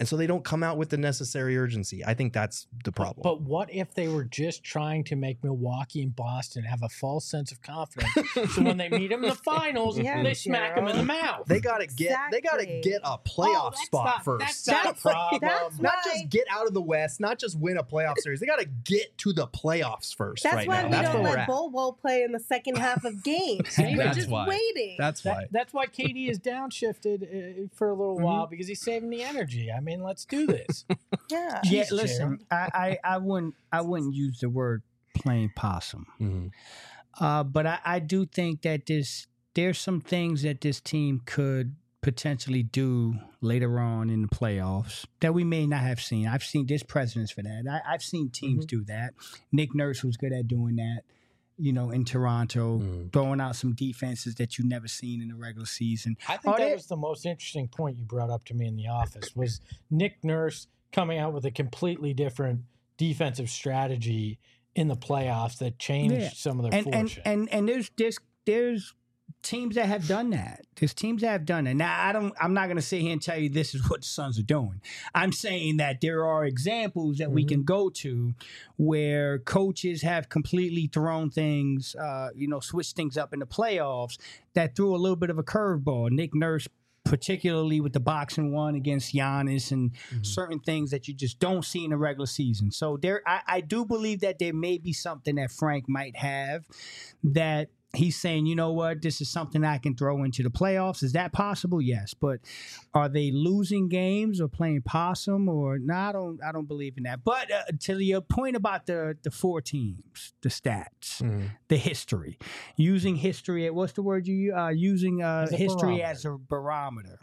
And so they don't come out with the necessary urgency. I think that's the problem. But what if they were just trying to make Milwaukee and Boston have a false sense of confidence? So when they meet them in the finals, they smack them in the mouth. They gotta get a playoff spot first. That's the problem. Not just get out of the West, not just win a playoff series. They gotta get to the playoffs first. That's why now. we don't let Bol play in the second half of games. We're just waiting. That's why. That's why KD is downshifted for a little while, because he's saving the energy. I mean, let's do this. Yeah. Yeah. Listen, I wouldn't use the word playing possum, but I do think that there's some things that this team could potentially do later on in the playoffs that we may not have seen. I've seen there's precedents for that. I've seen teams do that. Nick Nurse was good at doing that. In Toronto, throwing out some defenses that you've never seen in the regular season. I think that was the most interesting point you brought up to me in the office, was Nick Nurse coming out with a completely different defensive strategy in the playoffs that changed some of their fortune. And there's teams that have done that. There's teams that have done that. Now, I'm not going to sit here and tell you this is what the Suns are doing. I'm saying that there are examples that we can go to where coaches have completely thrown things, switched things up in the playoffs that threw a little bit of a curveball. Nick Nurse, particularly with the boxing one against Giannis and certain things that you just don't see in the regular season. So I do believe that there may be something that Frank might have that he's saying, you know what, this is something I can throw into the playoffs. Is that possible? Yes. But are they losing games or playing possum? Or no, I don't believe in that. But to your point about the four teams, the stats, the history, using history, what's the word you using history as a barometer.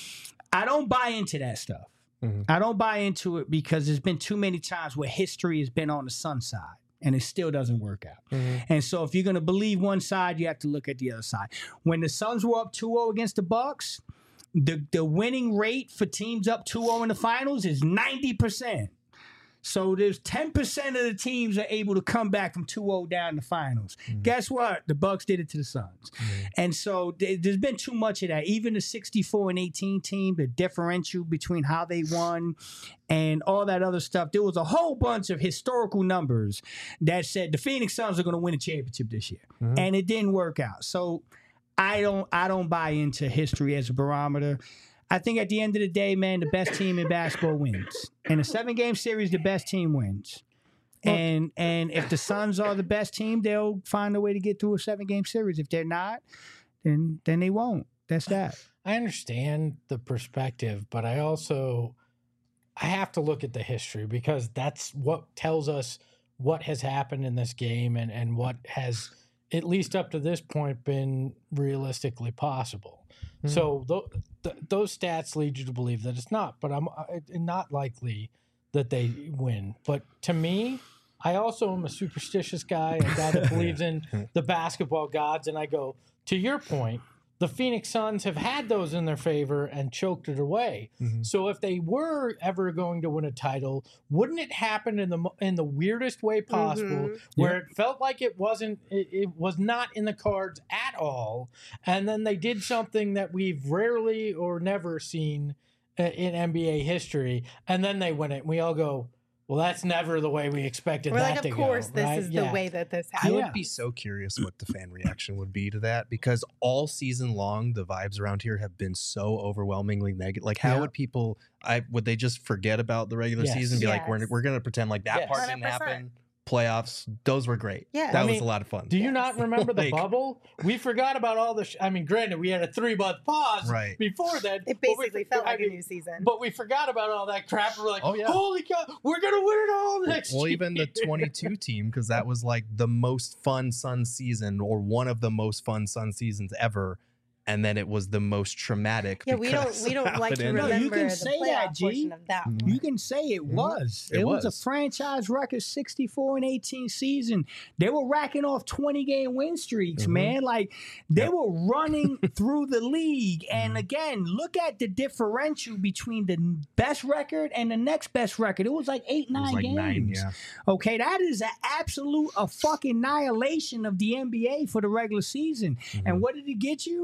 I don't buy into that stuff. I don't buy into it because there's been too many times where history has been on the Sun side. And it still doesn't work out. And so if you're going to believe one side, you have to look at the other side. When the Suns were up 2-0 against the Bucks, the winning rate for teams up 2-0 in the finals is 90%. So there's 10% of the teams are able to come back from 2-0 down in the finals. Guess what? The Bucks did it to the Suns. And so there's been too much of that. Even the 64-18 team, the differential between how they won and all that other stuff. There was a whole bunch of historical numbers that said the Phoenix Suns are going to win a championship this year. And it didn't work out. So I don't buy into history as a barometer. I think at the end of the day, man, the best team in basketball wins. In a 7-game series, the best team wins. And if the Suns are the best team, they'll find a way to get through a 7-game series. If they're not, then they won't. That's that. I understand the perspective, but I have to look at the history, because that's what tells us what has happened in this game and what has, at least up to this point, been realistically possible. So those stats lead you to believe that it's not, but I'm not likely that they win. But to me, I also am a superstitious guy, a guy that believes in the basketball gods, and I go, to your point, the Phoenix Suns have had those in their favor and choked it away. So if they were ever going to win a title, wouldn't it happen in the weirdest way possible, where it felt like it was not in the cards at all, and then they did something that we've rarely or never seen in NBA history, and then they win it, and we all go, well, that's never the way we expected that to go. Of course, this is the way that this happened. I would be so curious what the fan reaction would be to that, because all season long, the vibes around here have been so overwhelmingly negative. Like, how would people, would they just forget about the regular season and be like, we're going to pretend like that part didn't happen? Playoffs, those were great. Yeah, that was a lot of fun. Do you not remember the bubble? We forgot about all the. Granted, we had a 3-month pause before that. It basically felt like a new season. But we forgot about all that crap. We're like, holy cow, we're gonna win it all next year. Well, even the 22 team, because that was like the most fun Sun season, or one of the most fun Sun seasons ever. And then it was the most traumatic. Yeah, we don't like to remember you can say the that, G. portion of that one. You can say it was. It was a franchise record 64-18 season. They were racking off 20-game win streaks, man. Like, they were running through the league. And again, look at the differential between the best record and the next best record. It was like 8-9 games. 9, yeah. Okay, that is a fucking annihilation of the NBA for the regular season. And what did it get you?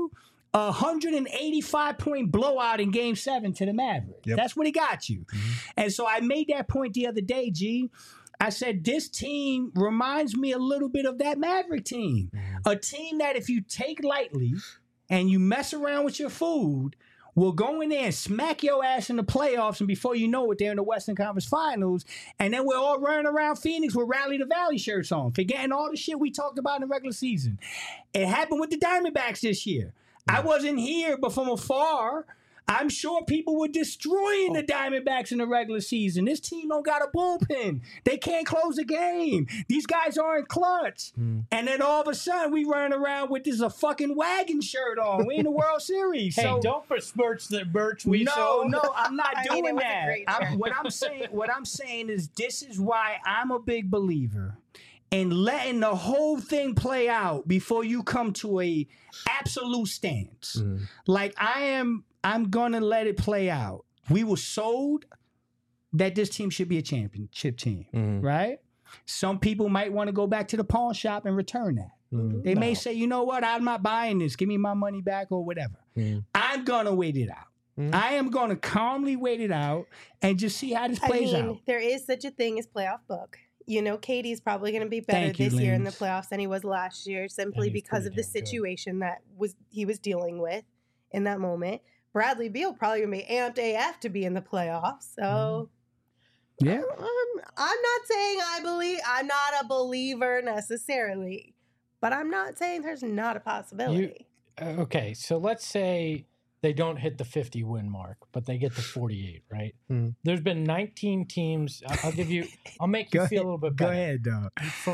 a 185-point blowout in Game 7 to the Mavericks. Yep. That's what he got you. And so I made that point the other day, G. I said, this team reminds me a little bit of that Maverick team. A team that if you take lightly and you mess around with your food, will go in there and smack your ass in the playoffs, and before you know it, they're in the Western Conference Finals, and then we're all running around Phoenix with Rally the Valley shirts on, forgetting all the shit we talked about in the regular season. It happened with the Diamondbacks this year. I wasn't here, but from afar, I'm sure people were destroying the Diamondbacks in the regular season. This team don't got a bullpen. They can't close a game. These guys aren't clutch. And then all of a sudden, we run around with this a fucking wagon shirt on. We in the World Series. Hey, so, don't besmirch the merch we sold. No, I'm not doing it was a that. great shirt. What I'm saying is this is why I'm a big believer in letting the whole thing play out before you come to a absolute stance. Like I'm gonna let it play out. We were sold that this team should be a championship team, right? Some people might want to go back to the pawn shop and return that. They may say, you know what, I'm not buying this. Give me my money back or whatever. I'm gonna wait it out. I am gonna calmly wait it out and just see how this plays out. There is such a thing as playoff book. You know, Katie's probably going to be better this year in the playoffs than he was last year, simply because of the situation that he was dealing with in that moment. Bradley Beal probably going to be amped AF to be in the playoffs. So, yeah, I'm not saying I'm not a believer necessarily, but I'm not saying there's not a possibility. Okay, so let's say they don't hit the 50 win mark, but they get to 48, right? There's been 19 teams. I'll make you feel a little bit better. Go ahead, dog.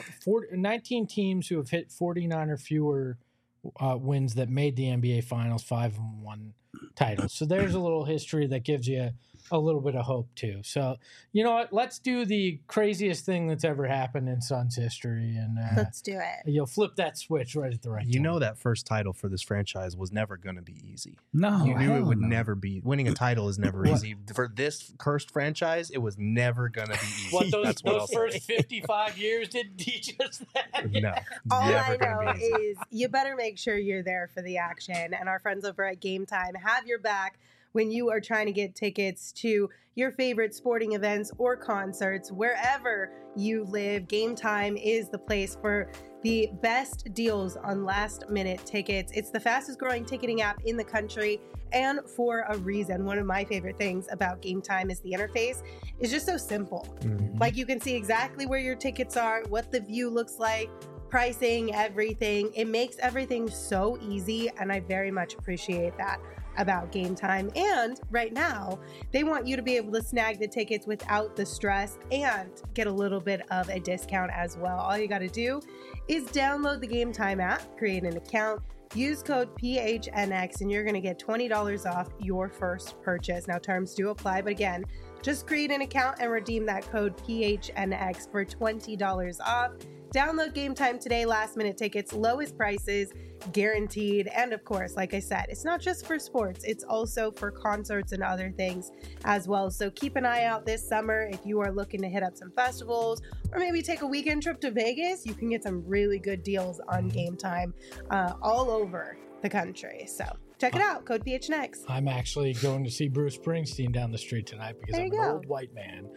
19 teams who have hit 49 or fewer wins that made the NBA Finals, 5-1 titles. So there's a little history that gives you a little bit of hope too. So you know what? Let's do the craziest thing that's ever happened in Suns history, and let's do it. You'll flip that switch right at the right time. You know that first title for this franchise was never going to be easy. No, you knew it would never be. Winning a title is never easy for this cursed franchise. It was never going to be easy. What those first 55 years didn't teach us that. No, all never I know be easy. is you better make sure you're there for the action, and our friends over at Game Time have your back when you are trying to get tickets to your favorite sporting events or concerts. Wherever you live, Game Time is the place for the best deals on last-minute tickets. It's the fastest-growing ticketing app in the country, and for a reason. One of my favorite things about Game Time is the interface is just so simple. Like, you can see exactly where your tickets are, what the view looks like, pricing, everything. It makes everything so easy, and I very much appreciate that about Game Time. And right now, they want you to be able to snag the tickets without the stress and get a little bit of a discount as well. All you got to do is download the Game Time app, create an account, use code PHNX, and you're going to get $20 off your first purchase. Now, terms do apply, but again, just create an account and redeem that code PHNX for $20 off. Download Game Time today. Last minute tickets, lowest prices, guaranteed. And of course, like I said, it's not just for sports, it's also for concerts and other things as well. So keep an eye out this summer if you are looking to hit up some festivals or maybe take a weekend trip to Vegas. You can get some really good deals on Game Time all over the country. So check it out. Code PHNX. I'm actually going to see Bruce Springsteen down the street tonight because I'm an old white man,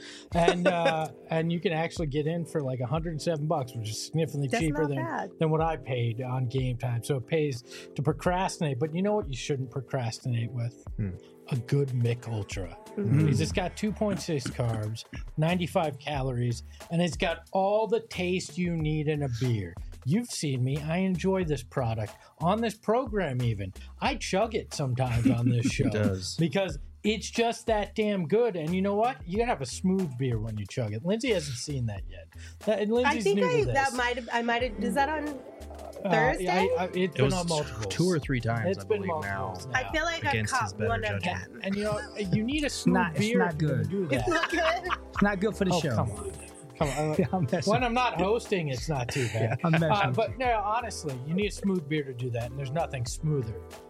and you can actually get in for like $107, which is significantly cheaper than what I paid on Game Time. So it pays to procrastinate. But you know what? You shouldn't procrastinate with a good Mick Ultra. Because it's got 2.6 carbs, 95 calories, and it's got all the taste you need in a beer. You've seen me. I enjoy this product on this program even. I chug it sometimes on this show because it's just that damn good. And you know what? You got to have a smooth beer when you chug it. Lindsay hasn't seen that yet. Lindsay's I think new to this. I might have, is that on Thursday? It's been on multiple. 2 or 3 times, It's I been believe multiples now. I feel like I've caught one of them. And you know, you need a smooth beer. It's not good. Do that. It's not good. It's not good for the show. Come on. When I'm not hosting, it's not too bad. I'm messing. But no, honestly, you need a smooth beer to do that, and there's nothing smoother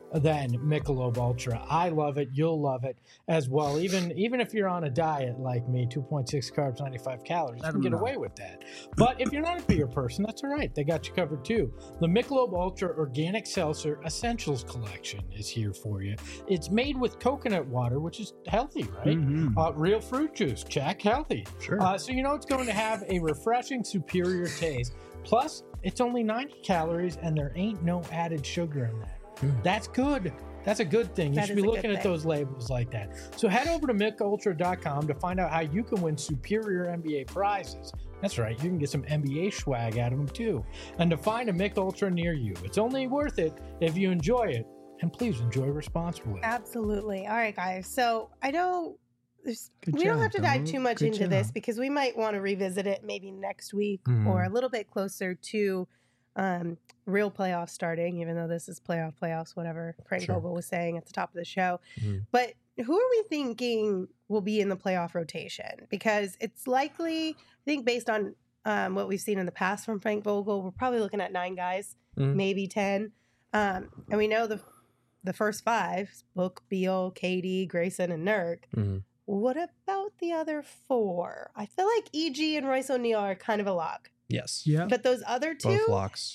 than Michelob Ultra. I love it. You'll love it as well. Even if you're on a diet like me, 2.6 carbs, 95 calories, you can get away with that. But if you're not a beer person, that's all right. They got you covered too. The Michelob Ultra Organic Seltzer Essentials Collection is here for you. It's made with coconut water, which is healthy, right? Real fruit juice, check, healthy. Sure. So it's going to have a refreshing, superior taste. Plus, it's only 90 calories and there ain't no added sugar in that. That's good. That's a good thing. You should be looking at those labels like that. So head over to MickUltra.com to find out how you can win superior NBA prizes. That's right. You can get some NBA swag out of them too. And to find a Mick Ultra near you. It's only worth it if you enjoy it. And please enjoy responsibly. Absolutely. All right, guys. So I know we don't have to dive too much into this because we might want to revisit it maybe next week or a little bit closer to real playoffs starting, even though this is playoffs, whatever Frank Vogel was saying at the top of the show. But who are we thinking will be in the playoff rotation? Because it's likely, I think based on what we've seen in the past from Frank Vogel, we're probably looking at 9 guys, maybe 10. And we know the first 5, Book, Beal, KD, Grayson, and Nurk. What about the other 4? I feel like EG and Royce O'Neal are kind of a lock. Yes. Yeah. But those other 2? Both locks.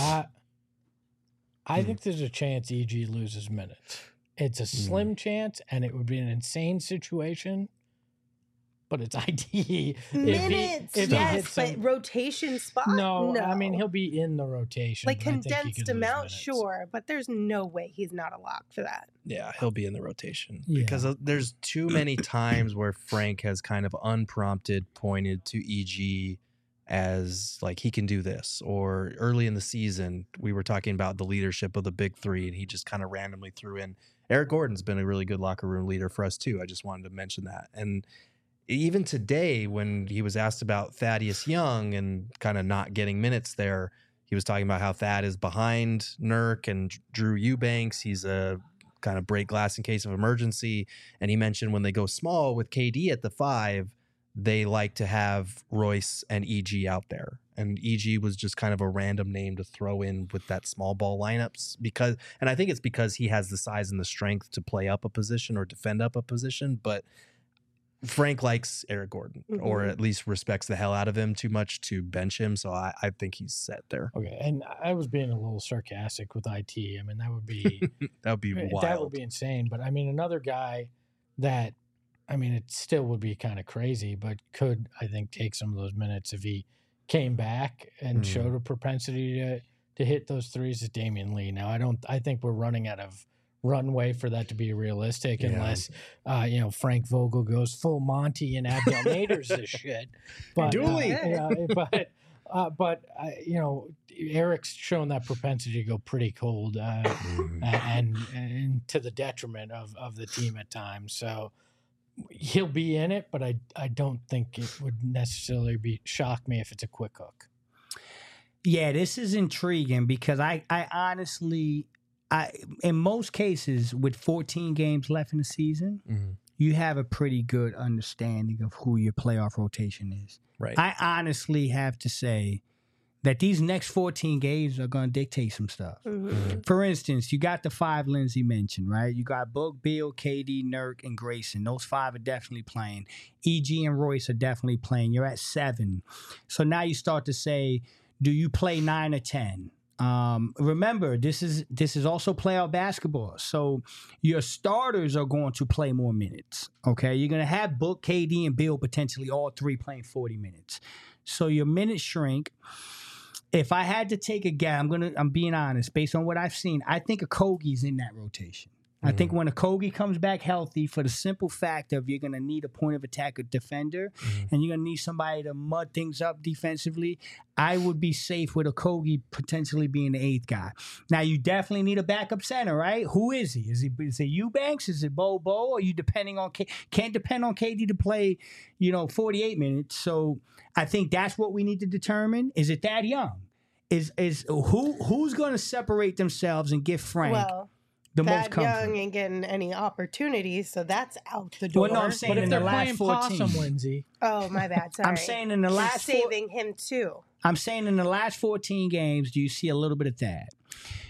I think there's a chance EG loses minutes. It's a slim chance, and it would be an insane situation. But it's ID. Minutes, yes, but rotation spot? No, I mean, he'll be in the rotation. Like condensed amount, sure, but there's no way he's not a lock for that. Yeah, he'll be in the rotation. Because there's too many times where Frank has kind of unprompted pointed to EG as like he can do this. Or early in the season, we were talking about the leadership of the big 3, and he just kind of randomly threw in. Eric Gordon's been a really good locker room leader for us too. I just wanted to mention that. And even today, when he was asked about Thaddeus Young and kind of not getting minutes there, he was talking about how Thad is behind Nurk and Drew Eubanks. He's a kind of break glass in case of emergency. And he mentioned when they go small with KD at the 5, they like to have Royce and EG out there. And EG was just kind of a random name to throw in with that small ball lineups and I think it's because he has the size and the strength to play up a position or defend up a position. But Frank likes Eric Gordon, or at least respects the hell out of him too much to bench him. So I think he's set there. Okay, and I was being a little sarcastic with IT. I mean, that would be wild. That would be insane. But I mean, another guy that, I mean, it still would be kind of crazy, but could, I think, take some of those minutes if he came back and showed a propensity to hit those threes is Damian Lee. Now, I think we're running out of runway for that to be realistic unless Frank Vogel goes full Monty and Abdel Naders this shit. But Eric's shown that propensity to go pretty cold and to the detriment of the team at times. So he'll be in it, but I don't think it would necessarily shock me if it's a quick hook. Yeah, this is intriguing because I honestly, in most cases, with 14 games left in the season, you have a pretty good understanding of who your playoff rotation is. Right. I honestly have to say that these next 14 games are going to dictate some stuff. For instance, you got the 5 Lindsay mentioned, right? You got Book, Beal, KD, Nurk, and Grayson. Those 5 are definitely playing. EG and Royce are definitely playing. You're at 7. So now you start to say, do you play 9 or 10? Remember, this is also playoff basketball. So your starters are going to play more minutes. Okay, you're going to have Book, KD, and Beal potentially all 3 playing 40 minutes. So your minutes shrink. If I had to take a guess, I'm being honest. Based on what I've seen, I think Okogie's in that rotation. I think when Okogie comes back healthy, for the simple fact of you're going to need a point of attack defender and you're going to need somebody to mud things up defensively, I would be safe with Okogie potentially being the 8th guy. Now, you definitely need a backup center, right? Who is he? Is it Eubanks? Is it Bobo? Or are you depending on can't depend on KD to play, 48 minutes? So I think that's what we need to determine. Is it Thad Young? Is who's going to separate themselves and give Frank the most comfort? Young ain't getting any opportunities, so that's out the door. Well, no, I'm saying but in if the they're last playing 14. possum, Lindsay. Oh, my bad. Sorry. I'm saying in the last saving him too. I'm saying in the last 14 games, do you see a little bit of that?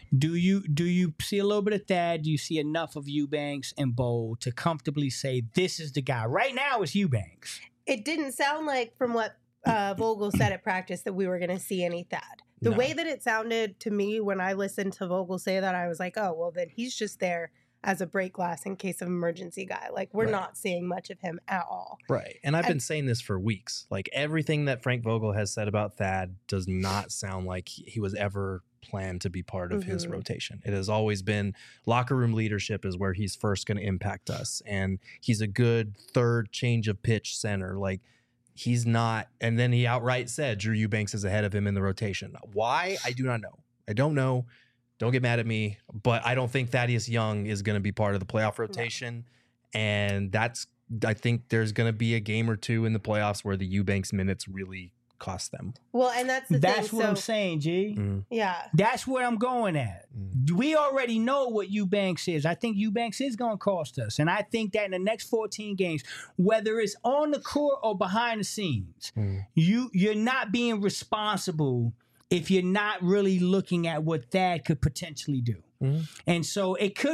Do you see a little bit of Thad? Do you see enough of Eubanks and Bowl to comfortably say this is the guy? Right now, it's Eubanks. It didn't sound like from what Vogel said at practice that we were going to see any Thad. The way that it sounded to me when I listened to Vogel say that, I was like, oh, well, then he's just there as a break glass in case of emergency guy. Like, we're not seeing much of him at all. Right. And I've been saying this for weeks. Like, everything that Frank Vogel has said about Thad does not sound like he was ever planned to be part of his rotation. It has always been locker room leadership is where he's first going to impact us. And he's a good third change of pitch center. Like, he's not. And then he outright said Drew Eubanks is ahead of him in the rotation. Why? I do not know. I don't know. Don't get mad at me, but I don't think Thaddeus Young is going to be part of the playoff rotation. No. And I think there's going to be a game or two in the playoffs where the Eubanks minutes really cost them. Well, and that's thing. That's what I'm saying, G. Yeah. That's where I'm going at. We already know what Eubanks is. I think Eubanks is going to cost us. And I think that in the next 14 games, whether it's on the court or behind the scenes, you're not being responsible if you're not really looking at what Thad could potentially do. And so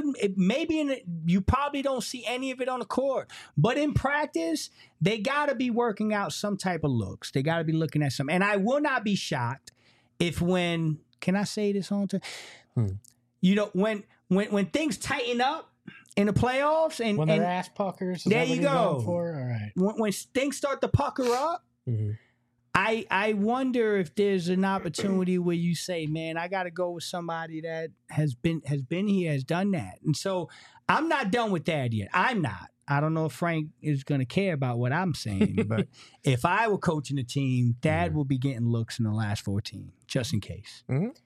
you probably don't see any of it on the court, but in practice, they got to be working out some type of looks. They got to be looking at some, and I will not be shocked if can I say this on time? When things tighten up in the playoffs and when they're ass puckers, there you go. All right. When things start to pucker up, I wonder if there's an opportunity where you say, man, I got to go with somebody that has been here, has done that. And so I'm not done with that yet. I'm not. I don't know if Frank is going to care about what I'm saying, but if I were coaching the team, Thad will be getting looks in the last 14, just in case.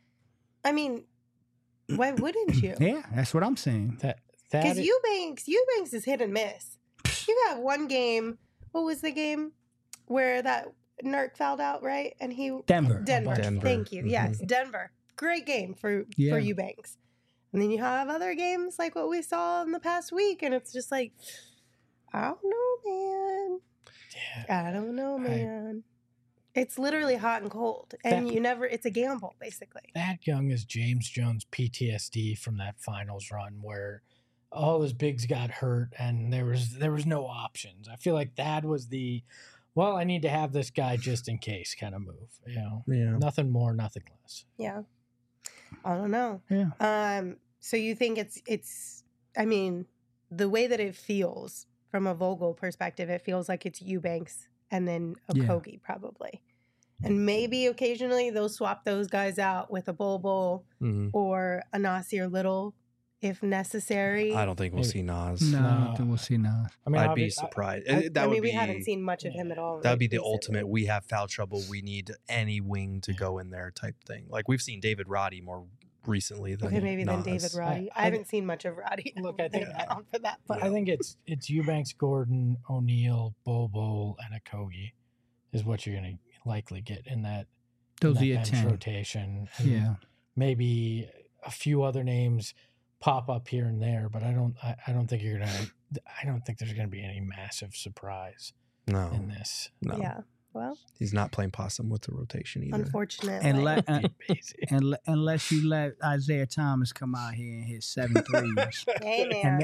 I mean, why wouldn't you? Yeah, that's what I'm saying. Because Eubanks is hit and miss. You got one game. What was the game where that Nurk fouled out, right? And Denver. Thank you. Yes, Denver. Great game for Eubanks. And then you have other games like what we saw in the past week, and it's just like, I don't know, man. Yeah. I don't know, man. It's literally hot and cold, and it's a gamble, basically. Thad Young is James Jones PTSD from that finals run where all his bigs got hurt and there was no options. I feel like Thad was I need to have this guy just in case kind of move. Yeah. Nothing more, nothing less. Yeah. I don't know. Yeah. So you think it's I mean, the way that it feels from a Vogel perspective, it feels like it's Eubanks and then Okogie probably. And maybe occasionally they'll swap those guys out with a Bol or a Nasir Little if necessary. I don't think we'll see Nas. No, I don't think we'll see Nas. I mean, I'd be surprised. We haven't seen much of him at all. That would be the ultimate, we have foul trouble, we need any wing to go in there type thing. Like we've seen David Roddy more recently than than David Roddy. I haven't seen much of Roddy. Look, I think for that, but I think it's Eubanks, Gordon, O'Neal, Bol, and Okogie is what you're going to likely get in that. Those are that your bench 10 rotation. And maybe a few other names pop up here and there, but I don't think I don't think there's gonna be any massive surprise in this. No. Yeah. Well, he's not playing possum with the rotation either. Unfortunately. Unless you let Isaiah Thomas come out here and hit 7 threes. Hey, man.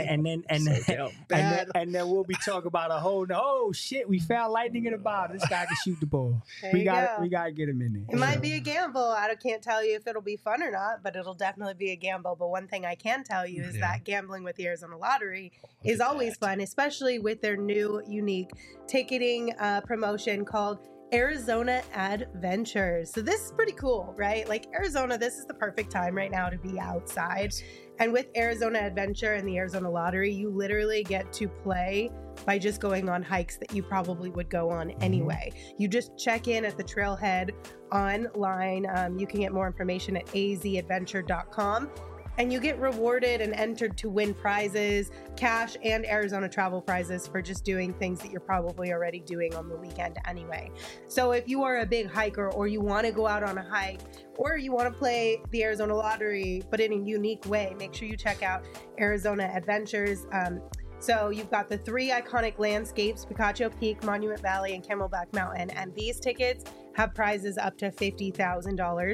And then we'll be talking about shit, we found lightning in a bottle. This guy can shoot the ball. We gotta get him in there. It might be a gamble. I can't tell you if it'll be fun or not, but it'll definitely be a gamble. But one thing I can tell you is that gambling with the Arizona Lottery is always fun, especially with their new unique ticketing promotion called Arizona Adventures. So this is pretty cool, right? Like Arizona, this is the perfect time right now to be outside. And with Arizona Adventure and the Arizona Lottery, you literally get to play by just going on hikes that you probably would go on anyway. You just check in at the trailhead online. You can get more information at azadventure.com. And you get rewarded and entered to win prizes, cash, and Arizona travel prizes for just doing things that you're probably already doing on the weekend anyway. So if you are a big hiker or you want to go out on a hike or you want to play the Arizona Lottery, but in a unique way, make sure you check out Arizona Adventures. So you've got the 3 iconic landscapes, Picacho Peak, Monument Valley, and Camelback Mountain. And these tickets have prizes up to $50,000.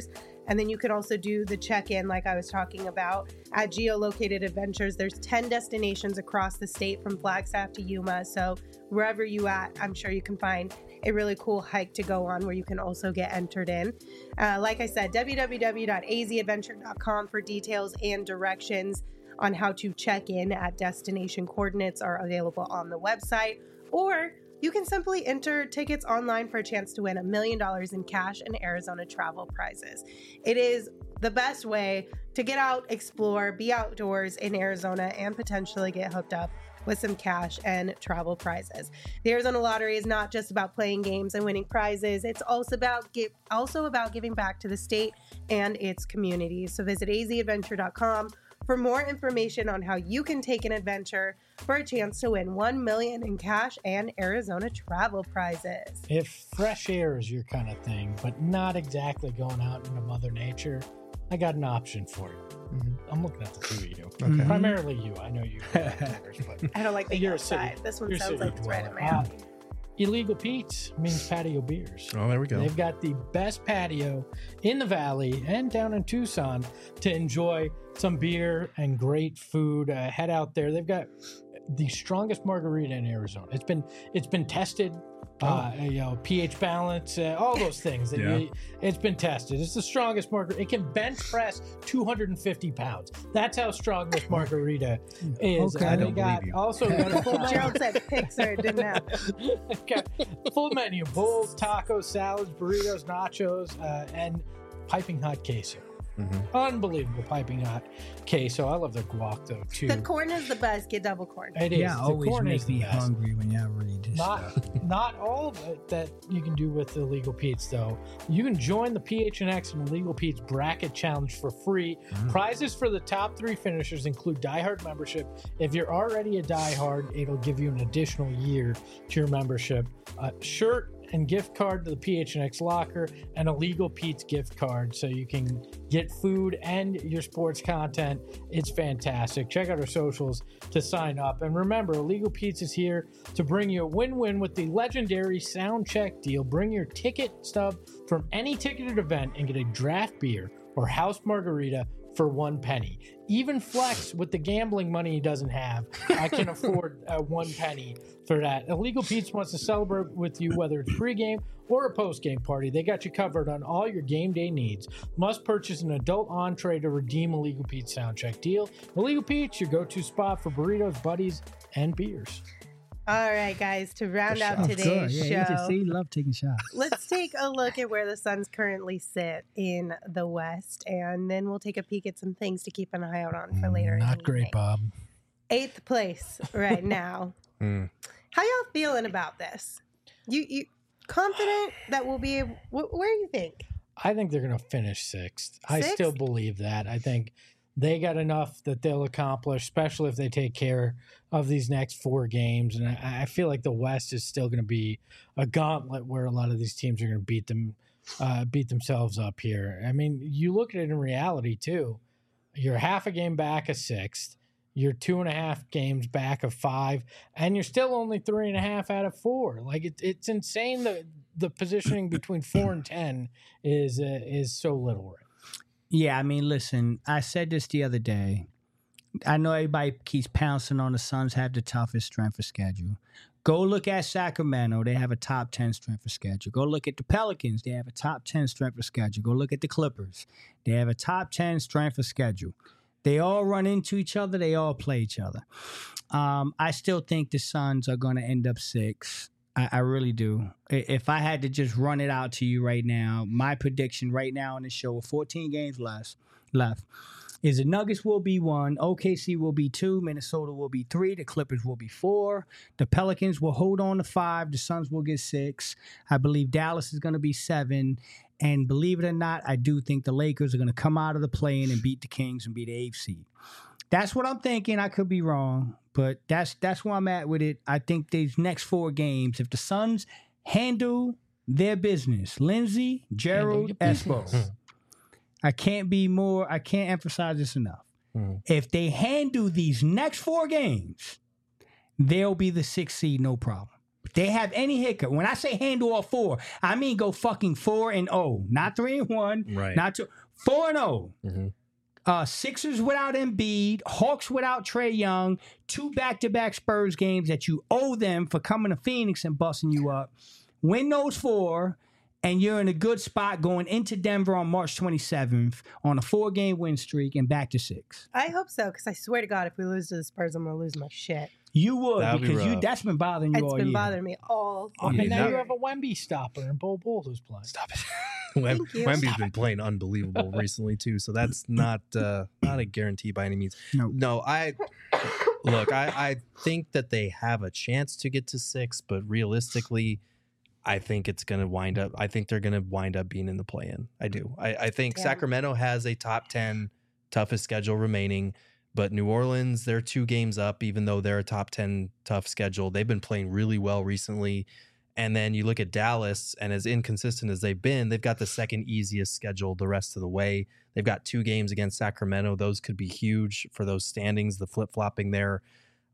And then you can also do the check-in like I was talking about at Geolocated Adventures. There's 10 destinations across the state from Flagstaff to Yuma. So wherever you at, I'm sure you can find a really cool hike to go on where you can also get entered in. Like I said, www.azadventure.com for details and directions on how to check in at destination coordinates are available on the website. Or you can simply enter tickets online for a chance to win $1 million in cash and Arizona travel prizes. It is the best way to get out, explore, be outdoors in Arizona, and potentially get hooked up with some cash and travel prizes. The Arizona Lottery is not just about playing games and winning prizes. It's also about giving back to the state and its communities. So visit azadventure.com for more information on how you can take an adventure for a chance to win $1 million in cash and Arizona travel prizes. If fresh air is your kind of thing, but not exactly going out into Mother Nature, I got an option for you. I'm looking at the two of you. Okay. Primarily you. I know you. But I don't like the outside. This one sounds like it's right in my alley. Illegal Pete's means patio beers. Oh, there we go. They've got the best patio in the valley and down in Tucson to enjoy some beer and great food. Head out there. They've got the strongest margarita in Arizona. It's been tested. pH balance, all those things. It's been tested. It's the strongest margarita. It can bench press 250 pounds. That's how strong this margarita is. Okay. And I they don't got also got a full menu. Gerald said Pixar didn't happen. Okay. Full menu: bowls, tacos, salads, burritos, nachos, and piping hot queso. Unbelievable piping hot queso. I love their guac though too. The corn is the best. Get double corn. It is. Yeah, The always corn make is the me best. hungry when y'all read this stuff. Not all of it that you can do with Illegal Pete's though. You can join the PHNX and Illegal Pete's bracket challenge for free. Prizes for the top 3 finishers include diehard membership. If you're already a diehard, it'll give you an additional year to your membership. Shirt and gift card to the PHNX locker, and a Illegal Pete's gift card so you can get food and your sports content. It's fantastic. Check out our socials to sign up. And remember, Illegal Pete's is here to bring you a win-win with the legendary Sound Check deal. Bring your ticket stub from any ticketed event and get a draft beer or house margarita for 1 penny. Even Flex, with the gambling money he doesn't have, I can afford 1 penny for that. Illegal Pete's wants to celebrate with you, whether it's pregame or a postgame party. They got you covered on all your game day needs. Must purchase an adult entree to redeem Illegal Pete's Soundcheck deal. Illegal Pete's, your go-to spot for burritos, buddies, and beers. All right, guys, to round out today's show, you love taking shots. let's take a look at where the Suns currently sit in the West, and then we'll take a peek at some things to keep an eye out on for later. Not great, Bob. 8th place right now. How y'all feeling about this? You confident that we'll be able, where do you think? I think they're going to finish 6th. I still believe that. I think they got enough that they'll accomplish, especially if they take care of these next 4 games. And I feel like the West is still going to be a gauntlet where a lot of these teams are going to beat themselves up here. I mean, you look at it in reality too. You're half a game back of 6th. You're 2.5 games back of 5, and you're still only 3.5 out of 4. Like it's insane. The positioning between 4 and 10 is so little. Right? Yeah, I mean, listen, I said this the other day. I know everybody keeps pouncing on the Suns have the toughest strength of schedule. Go look at Sacramento. They have a top 10 strength of schedule. Go look at the Pelicans. They have a top 10 strength of schedule. Go look at the Clippers. They have a top 10 strength of schedule. They all run into each other. They all play each other. I still think the Suns are going to end up 6. I really do. If I had to just run it out to you right now, my prediction right now on the show with 14 games left is the Nuggets will be 1, OKC will be 2, Minnesota will be 3, the Clippers will be 4, the Pelicans will hold on to 5, the Suns will get 6. I believe Dallas is going to be 7. And believe it or not, I do think the Lakers are going to come out of the play-in and beat the Kings and be the 8th seed. That's what I'm thinking. I could be wrong, but that's where I'm at with it. I think these next 4 games, if the Suns handle their business, Lindsey, Gerald, Espo, I can't emphasize this enough. If they handle these next 4 games, they'll be the 6th seed, no problem. If they have any hiccup, when I say handle all 4, I mean go fucking 4-0, not 3-1, right? Not 2, 4-0. Mm-hmm. Sixers without Embiid, Hawks without Trae Young, 2 back-to-back Spurs games that you owe them for coming to Phoenix and busting you up. Win those 4, and you're in a good spot going into Denver on March 27th on a 4-game win streak and back to 6. I hope so, because I swear to God, if we lose to the Spurs, I'm going to lose my shit. You would, That'd be because rough. that's been bothering you It's all been year. bothering me all And year. now you have a Wemby stopper and Bol Bol who's playing. Stop it. Thank you. Wemby's been playing unbelievable recently too, so that's not a guarantee by any means. No, I think that they have a chance to get to 6, but realistically, I think it's going to wind up. I think they're going to wind up being in the play-in. I do. I think Yeah. Sacramento has a top 10 toughest schedule remaining, but New Orleans, they're 2 games up, even though they're a top 10 tough schedule. They've been playing really well recently. And then you look at Dallas, and as inconsistent as they've been, they've got the second easiest schedule the rest of the way. They've got 2 games against Sacramento. Those could be huge for those standings, the flip-flopping there.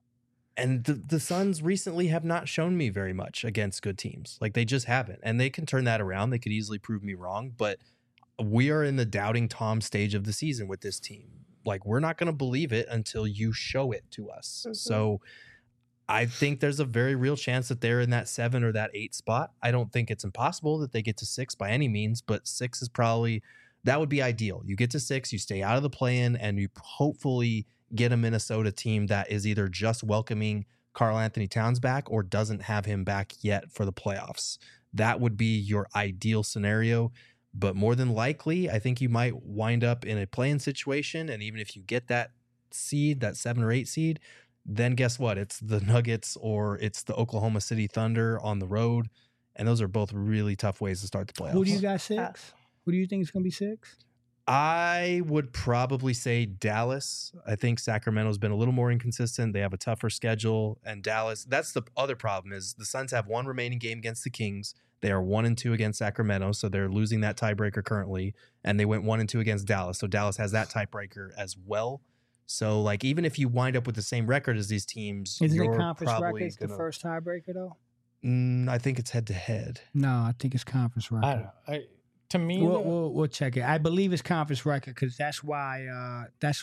And the Suns recently have not shown me very much against good teams. Like, they just haven't. And they can turn that around. They could easily prove me wrong. But we are in the doubting Tom stage of the season with this team. Like, we're not going to believe it until you show it to us. Mhm. So I think there's a very real chance that they're in that 7 or that 8 spot. I don't think it's impossible that they get to 6 by any means, but 6 is probably, that would be ideal. You get to 6, you stay out of the play-in, and you hopefully get a Minnesota team that is either just welcoming Karl Anthony Towns back or doesn't have him back yet for the playoffs. That would be your ideal scenario. But more than likely, I think you might wind up in a play-in situation. And even if you get that seed, that 7 or 8 seed, then guess what? It's the Nuggets or it's the Oklahoma City Thunder on the road. And those are both really tough ways to start the playoffs. Who do you got 6? Who do you think is going to be 6? I would probably say Dallas. I think Sacramento's been a little more inconsistent. They have a tougher schedule. And Dallas, that's the other problem is the Suns have 1 remaining game against the Kings. They are 1-2 against Sacramento, so they're losing that tiebreaker currently. And they went 1-2 against Dallas, so Dallas has that tiebreaker as well. So, like, even if you wind up with the same record as these teams, Isn't you're it conference probably records the first tiebreaker, though? I think it's head-to-head. No, I think it's conference record. I don't know. To me, We'll check it. I believe it's conference record because that's why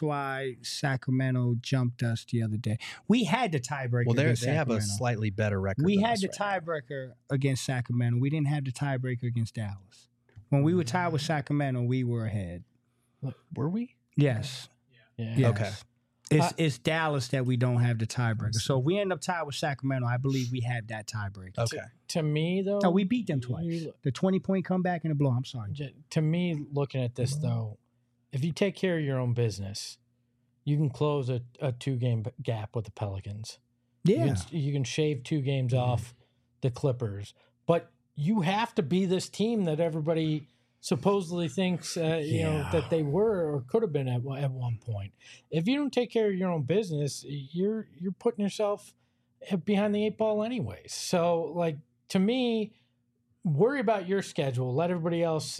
Sacramento jumped us the other day. We had the tiebreaker. Well, they against have a Sacramento. slightly better record. We than had us the right now. tiebreaker against Sacramento. We didn't have the tiebreaker against Dallas. When we were tied with Sacramento, we were ahead. Were we? Yes. yeah. Yes. Okay. It's Dallas that we don't have the tiebreaker. So if we end up tied with Sacramento, I believe we have that tiebreaker. Okay. To me, though, No, we beat them twice. you- The 20-point comeback and the blow. I'm sorry. To me, looking at this though, if you take care of your own business, you can close a 2-game gap with the Pelicans. Yeah. You can shave 2 games off the Clippers, but you have to be this team that everybody supposedly thinks you know that they were or could have been at one point. If you don't take care of your own business, you're putting yourself behind the 8 ball anyways. So, like, to me, worry about your schedule. Let everybody else,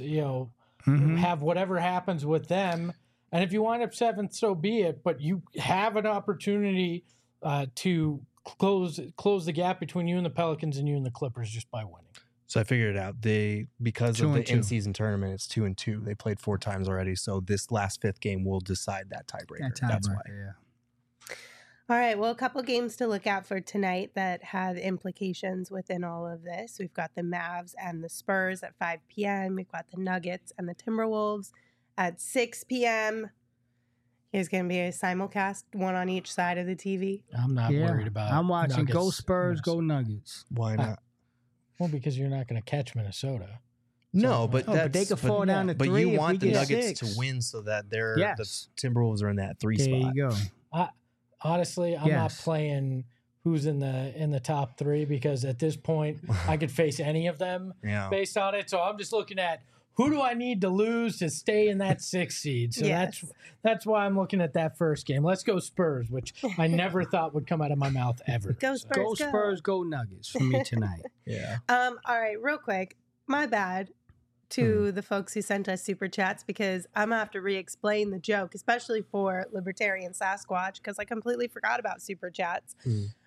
have whatever happens with them. And if you wind up 7th, so be it. But you have an opportunity to close the gap between you and the Pelicans and you and the Clippers just by winning. So I figured it out. Because of the 2-2. in-season tournament, it's 2-2. They played 4 times already. So this last 5th game will decide that tiebreaker. That's why. Yeah. All right, well, a couple games to look out for tonight that have implications within all of this. We've got the Mavs and the Spurs at 5 p.m. We've got the Nuggets and the Timberwolves at 6 p.m. There's going to be a simulcast, one on each side of the TV. I'm not worried about I'm watching Nuggets. Go Spurs, Yes. Go Nuggets. Why not? Well, because you're not going to catch Minnesota. No, but but they could fall down to But 3 you if want we the get Nuggets 6. to win so that Yes. the Timberwolves are in that 3 There spot. you go. Honestly, I'm not Yes. playing who's in the top 3 because at this point I could face any of them Yeah. based on it. So I'm just looking at who do I need to lose to stay in that 6th seed. So Yes. that's why I'm looking at that first game. Let's go Spurs, which I never thought would come out of my mouth ever. Go So- Spurs. Go Spurs, Go Nuggets for me tonight. Yeah. All right, real quick. My bad to the folks who sent us super chats because I'm going to have to re-explain the joke, especially for Libertarian Sasquatch, because I completely forgot about super chats.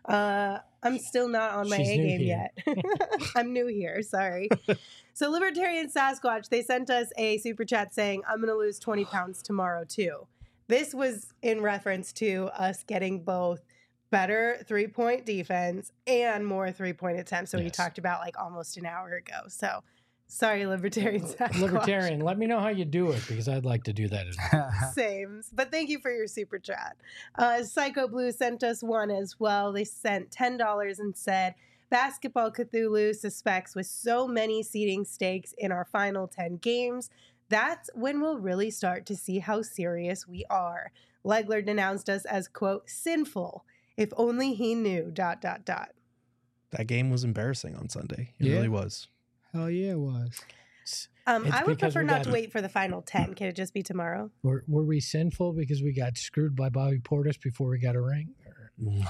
I'm still not on my She's A new game here. yet. I'm new here. Sorry. So Libertarian Sasquatch, they sent us a super chat saying, I'm going to lose 20 pounds tomorrow too. This was in reference to us getting both better 3-point defense and more 3-point attempts. So he Yes. talked about like almost an hour ago. So sorry, Libertarian Sasquatch. Libertarian, let me know how you do it because I'd like to do that as well. Same. But thank you for your super chat. Psycho Blue sent us one as well. They sent $10 and said, Basketball Cthulhu suspects with so many seeding stakes in our final 10 games, that's when we'll really start to see how serious we are. Legler denounced us as, quote, sinful. If only he knew, ... That game was embarrassing on Sunday. It Yeah. really was. Hell yeah, it was. It's I would because prefer we not got- to wait for the final 10. Can it just be tomorrow? Were we sinful because we got screwed by Bobby Portis before we got a ring? Or-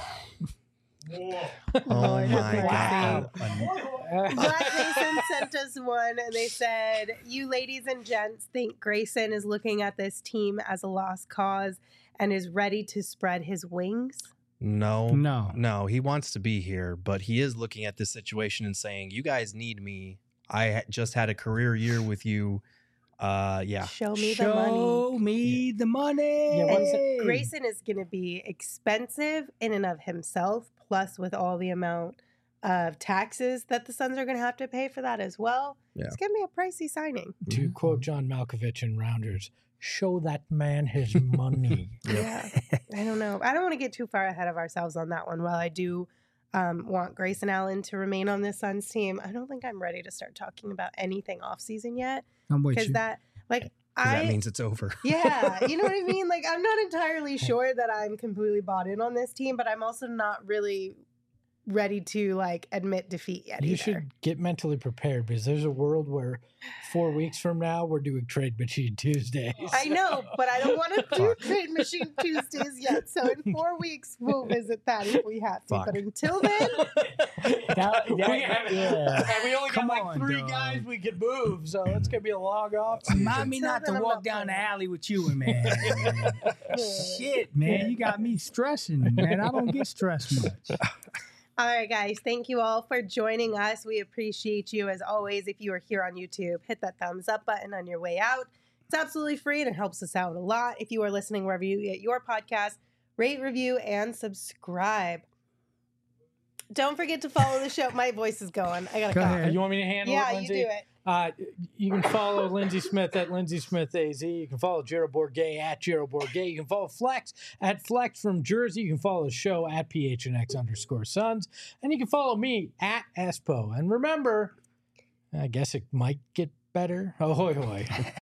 Oh my Wow. God. Black Mason sent us one and they said, you ladies and gents think Grayson is looking at this team as a lost cause and is ready to spread his wings? No. He wants to be here, but he is looking at this situation and saying, you guys need me. I just had a career year with you. Yeah. Show me the money. Show me the money. Yeah, what's And Grayson is going to be expensive in and of himself, plus with all the amount of taxes that the Suns are going to have to pay for that as well. Yeah. It's going to be a pricey signing. To quote John Malkovich in Rounders, show that man his money. Yeah. I don't know. I don't want to get too far ahead of ourselves on that one. While I do want Grayson Allen to remain on this Suns team, I don't think I'm ready to start talking about anything off season yet. I'm with Because you. that, like, 'Cause that means it's over. yeah, you know what I mean? Like, I'm not entirely sure that I'm completely bought in on this team, but I'm also not really ready to, like, admit defeat yet You either. should get mentally prepared because there's a world where 4 weeks from now we're doing Trade Machine Tuesdays. I know, but I don't want to do Fuck. Trade Machine Tuesdays yet. So in 4 weeks, we'll visit that if we have to. Fuck. But until then, And we only Come got like on, 3 dog. guys we could move, so it's gonna be a long off season. Remind me not to Until then, I'm walk not down the playing. alley with you, man. Shit, man. You got me stressing, man. I don't get stressed much. all right, guys, thank you all for joining us. We appreciate you as always. If you are here on YouTube, hit that thumbs up button on your way out. It's absolutely free and it helps us out a lot. If you are listening wherever you get your podcast, rate, review, and subscribe. Don't forget to follow the show. My voice is going. I gotta Go cough. ahead. You want me to handle Yeah, it, you Lindsay? do it. You can follow Lindsay Smith at Lindsay Smith AZ. You can follow Gerald Bourget at Gerald Bourget. You can follow Flex at Flex from Jersey. You can follow the show at PHNX_Suns. And you can follow me at Espo. And remember, I guess it might get better. Ahoy, hoy.